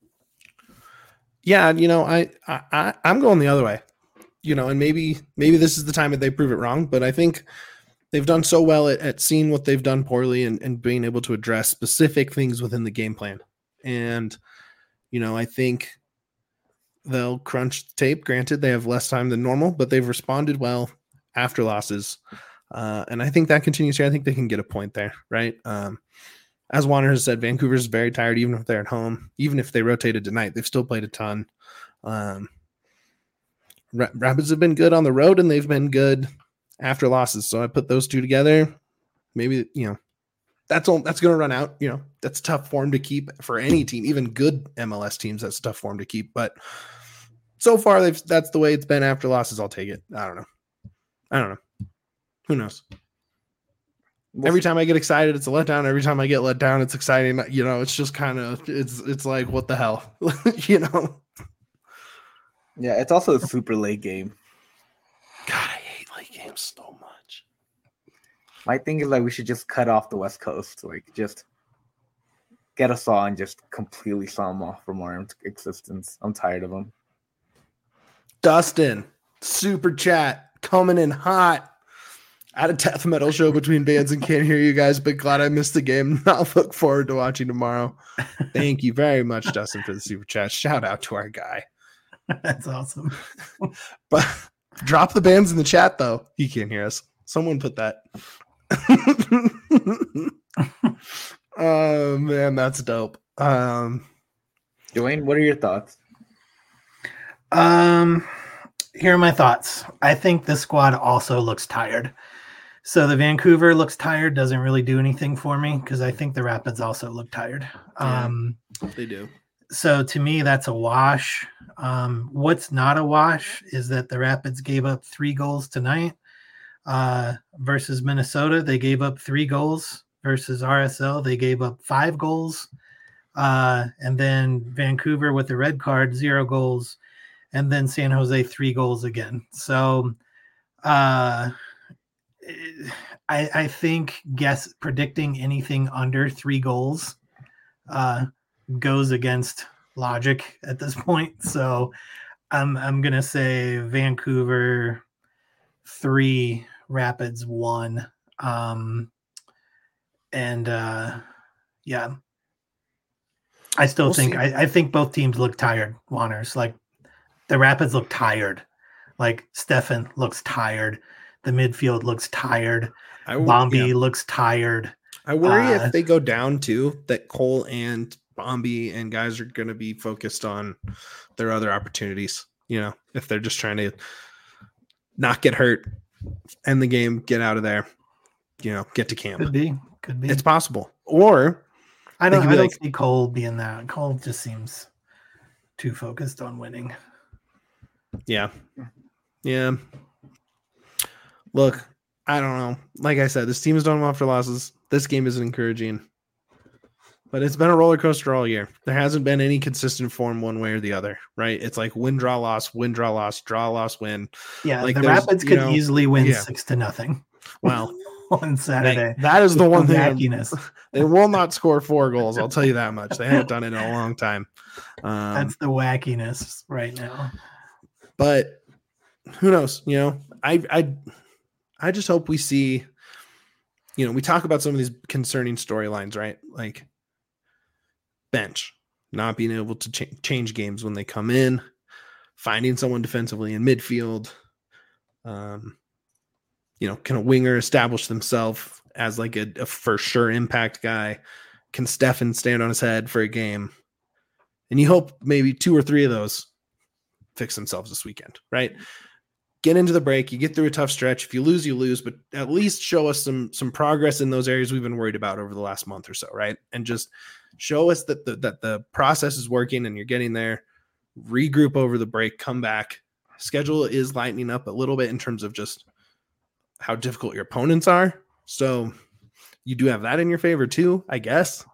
Yeah, you know, I, I I'm going the other way. You know, and maybe maybe this is the time that they prove it wrong, but I think they've done so well at, at seeing what they've done poorly and, and being able to address specific things within the game plan. And you know, I think they'll crunch the tape. Granted, they have less time than normal, but they've responded well after losses. Uh, and I think that continues here. I think they can get a point there, right? Um, as Warner has said, Vancouver's very tired, even if they're at home. Even if they rotated tonight, they've still played a ton. Um, Rapids have been good on the road, and they've been good after losses. So I put those two together. Maybe, you know, that's all, that's going to run out. You know, that's tough form to keep for any team, even good M L S teams. That's tough form to keep. But so far, they've that's the way it's been after losses. I'll take it. I don't know. I don't know. Who knows? We'll Every see. time I get excited, it's a letdown. Every time I get let down, it's exciting. You know, it's just kind of it's it's like, what the hell, you know? Yeah, it's also a super late game. God, I hate late games so much. My thing is, like, we should just cut off the West Coast. Like, just get a saw and just completely saw them off from our existence. I'm tired of them. Dustin, super chat coming in hot. At a death metal show between bands and can't hear you guys, but glad I missed the game. I'll look forward to watching tomorrow. Thank you very much, Dustin, for the super chat. Shout out to our guy. That's awesome. But drop the bands in the chat, though. He can't hear us. Someone put that. Oh, man, that's dope. Um, Dwayne, what are your thoughts? Um, here are my thoughts. I think this squad also looks tired. So the Vancouver looks tired, doesn't really do anything for me because I think the Rapids also look tired. Yeah, um, they do. So to me, that's a wash. Um, what's not a wash is that the Rapids gave up three goals tonight uh, versus Minnesota. They gave up three goals versus R S L. They gave up five goals. Uh, and then Vancouver with the red card, zero goals. And then San Jose, three goals again. So uh, I, I think guess predicting anything under three goals uh, goes against logic at this point. So I'm I'm gonna say Vancouver three, Rapids one, um, and uh, yeah, I still We'll think see. I, I think both teams look tired. Wanners, like the Rapids look tired, like Stefan looks tired. The midfield looks tired. I, Bombi yeah. looks tired. I worry Uh, if they go down too, that Cole and Bombi and guys are going to be focused on their other opportunities. You know, if they're just trying to not get hurt, end the game, get out of there, you know, get to camp. Could be, could be. It's possible. Or I they don't. could I be don't like- see Cole being that. Cole just seems too focused on winning. yeah, yeah. Look, I don't know. Like I said, this team has done well after losses. This game isn't encouraging. But it's been a roller coaster all year. There hasn't been any consistent form one way or the other, right? It's like win, draw, loss, win, draw, loss, draw, loss, win. Yeah, Like, the there's, Rapids you could know, easily win yeah. six to nothing Well, on Saturday. that, that is the one thing. I'm- Wackiness. They will not score four goals. I'll tell you that much. They haven't done it in a long time. Um, That's the wackiness right now. but who knows? You know, I, I, I just hope we see. You know, we talk about some of these concerning storylines, right? Like bench not being able to ch- change games when they come in, finding someone defensively in midfield. Um, you know, can a winger establish themselves as like a, a for sure impact guy? Can Stefan stand on his head for a game? And you hope maybe two or three of those fix themselves this weekend, right? Get into the break. You get through a tough stretch. If you lose, you lose, but at least show us some some progress in those areas we've been worried about over the last month or so, right? And just show us that the that the process is working and you're getting there. Regroup over the break, come back. Schedule is lightening up a little bit in terms of just how difficult your opponents are. So you do have that in your favor too, I guess.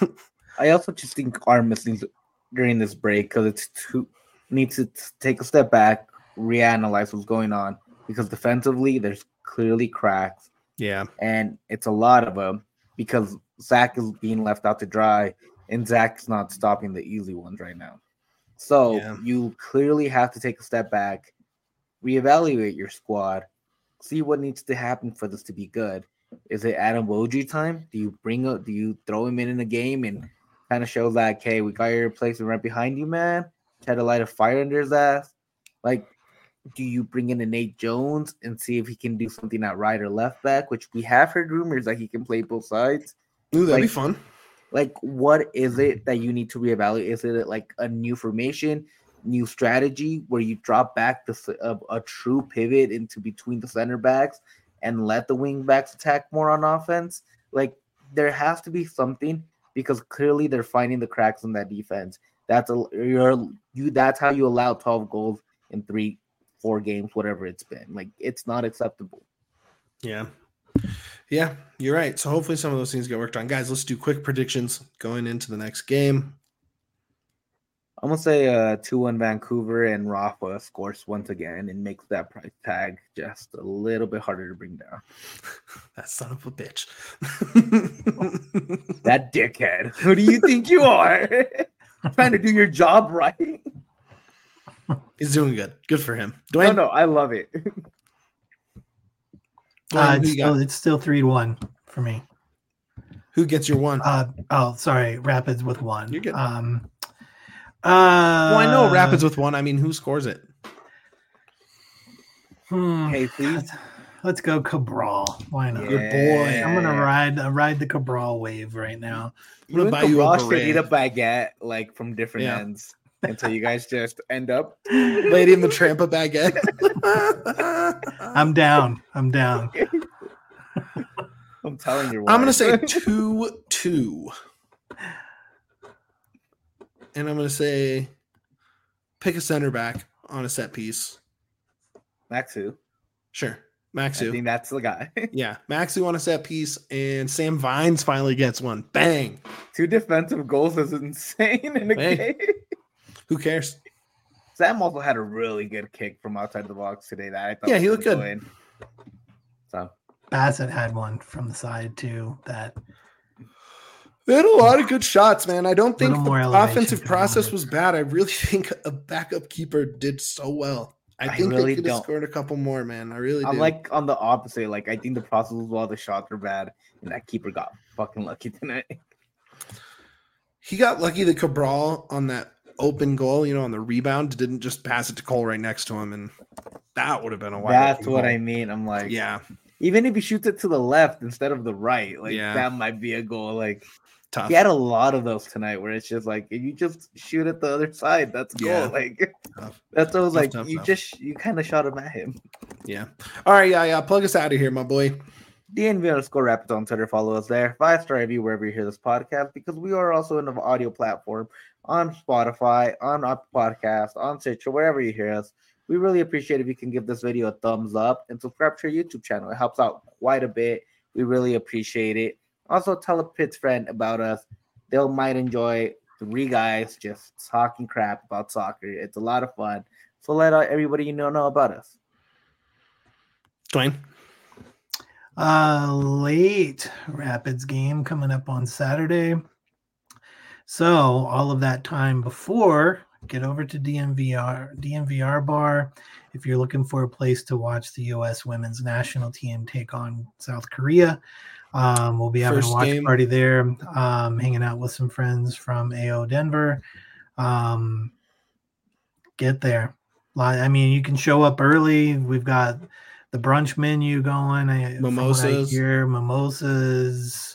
I also just think our missing during this break because it's too needs to take a step back, reanalyze what's going on because defensively there's clearly cracks. Yeah, and it's a lot of them because Zach is being left out to dry, and Zach's not stopping the easy ones right now. So Yeah. you clearly have to take a step back, reevaluate your squad, see what needs to happen for this to be good. Is it Adam Wojcik time? Do you bring up? Do you throw him in in the game and kind of show like, hey, we got your replacement right behind you, man? Try to light a fire under his ass. Like, do you bring in a Nate Jones and see if he can do something at right or left back? Which we have heard rumors that he can play both sides. Ooh, that'd be Like- fun. Like, what is it that you need to reevaluate? Is it like a new formation, new strategy where you drop back the a, a true pivot into between the center backs and let the wing backs attack more on offense? Like, there has to be something because clearly they're finding the cracks in that defense. That's a you're you. That's how you allow twelve goals in three, four games, whatever it's been. Like, it's not acceptable. Yeah. Yeah, you're right. So hopefully some of those things get worked on. Guys, let's do quick predictions going into the next game. I'm gonna say uh two one Vancouver and Rafa scores once again and makes that price tag just a little bit harder to bring down. That son of a bitch. That dickhead. Who do you think you are? Trying to do your job right? He's doing good. Good for him. No, Dwayne? no, I love it. Glenn, Uh, who it's, you still, got? it's still three to one for me. Who gets your one? Uh, oh, sorry. Rapids with one. You're good. Um, uh, Well, I know Rapids with one. I mean, who scores it? Hmm, Hey, please. let's go Cabral. Why not? Good boy. I'm gonna ride uh, ride the Cabral wave right now. You and buy you a Cabral should eat a beret. baguette like from different Yeah. ends until you guys just end up. Lady in the Tramp a baguette. I'm down. I'm down. I'm telling you. I'm gonna why. say two two, and I'm gonna say pick a center back on a set piece. Maxu. Sure, I Maxu. think that's the guy. Yeah, Maxu on a set piece, and Sam Vines finally gets one. Bang! Two defensive goals is insane in a Hey. game. Who cares? Sam also had a really good kick from outside the box today. That I thought Yeah, he was looked gonna good. go in. So Bassett had one from the side too. That They had a lot of good shots, man. I don't think Little the more elevation offensive coming on process it. was bad. I really think a backup keeper did so well. I I think really they could have don't. scored a couple more, man. I really I'm do. like on the opposite. Like I think the process was well, the shots were bad, and that keeper got fucking lucky tonight. He got lucky that Cabral on that open goal, you know, on the rebound, didn't just pass it to Cole right next to him, and that would have been a wide That's open what goal. I mean. I'm like, Yeah, even if he shoots it to the left instead of the right, like Yeah. that might be a goal. Like tough. he had a lot of those tonight where it's just like if you just shoot at the other side, that's a goal. Yeah. Like Tough. that's what I was Tough, like. tough, you tough. just you kind of shot him at him. Yeah. All right, yeah, yeah. Plug us out of here, my boy. D N V underscore Rapids on Twitter. Follow us there. Five star review wherever you hear this podcast because we are also in an audio platform on Spotify, on Apple Podcast, on Stitcher, wherever you hear us. We really appreciate if you can give this video a thumbs up and subscribe to our YouTube channel. It helps out quite a bit. We really appreciate it. Also, tell a Pitts friend about us. They might enjoy three guys just talking crap about soccer. It's a lot of fun. So let uh, everybody you know know about us. Dwayne. Uh, late Rapids game coming up on Saturday. So all of that time before, get over to D M V R, D M V R bar. If you're looking for a place to watch the U S women's national team take on South Korea, um, we'll be having First a watch game. party there, um, hanging out with some friends from A O Denver. Um, get there. Li- I mean, you can show up early. We've got the brunch menu going. I, from what I Mimosas. hear, mimosas.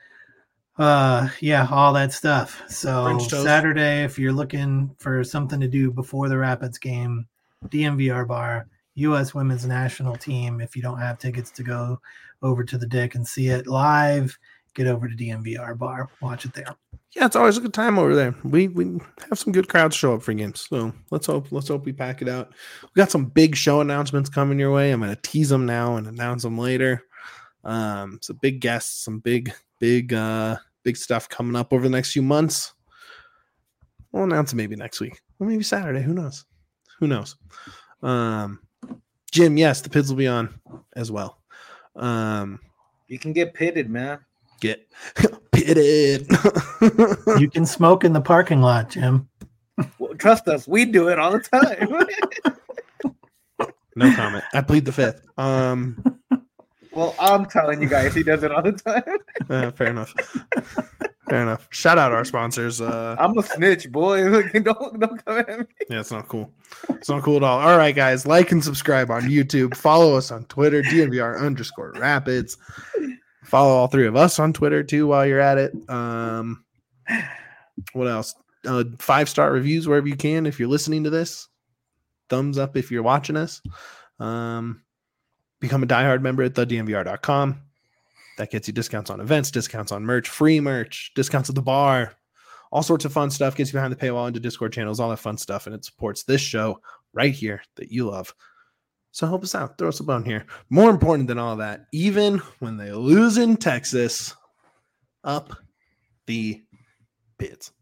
Uh, yeah, all that stuff. So French toast. Saturday, if you're looking for something to do before the Rapids game, D M V R bar, U S women's national team. If you don't have tickets to go over to the Dick and see it live, get over to D M V R bar, watch it there. Yeah, it's always a good time over there. We we have some good crowds show up for games, so let's hope let's hope we pack it out. We got some big show announcements coming your way. I'm going to tease them now and announce them later. Um, some big guests, some big big uh big stuff coming up over the next few months. We'll announce it maybe next week or maybe Saturday. Who knows? Who knows? Um, Jim, yes, the Pids will be on as well. Um, You can get pitted, man. get pitted. You can smoke in the parking lot, Jim. Well, trust us, we do it all the time. No comment. I plead the fifth. Um, Well, I'm telling you guys, he does it all the time. uh, fair enough. Fair enough. Shout out our sponsors. Uh, I'm a snitch, boy. Look, don't don't come at me. yeah, it's not cool. It's not cool at all. All right, guys, like and subscribe on YouTube. Follow us on Twitter, D N V R underscore Rapids. Follow all three of us on Twitter too while you're at it. Um, what else? Uh, five star reviews wherever you can. If you're listening to this, thumbs up if you're watching us. Um, become a diehard member at the D M V R dot com. That gets you discounts on events, discounts on merch, free merch, discounts at the bar, all sorts of fun stuff. Gets you behind the paywall into Discord channels, all that fun stuff, and it supports this show right here that you love. So help us out. Throw us a bone here. More important than all that, even when they lose in Texas, up the Pids.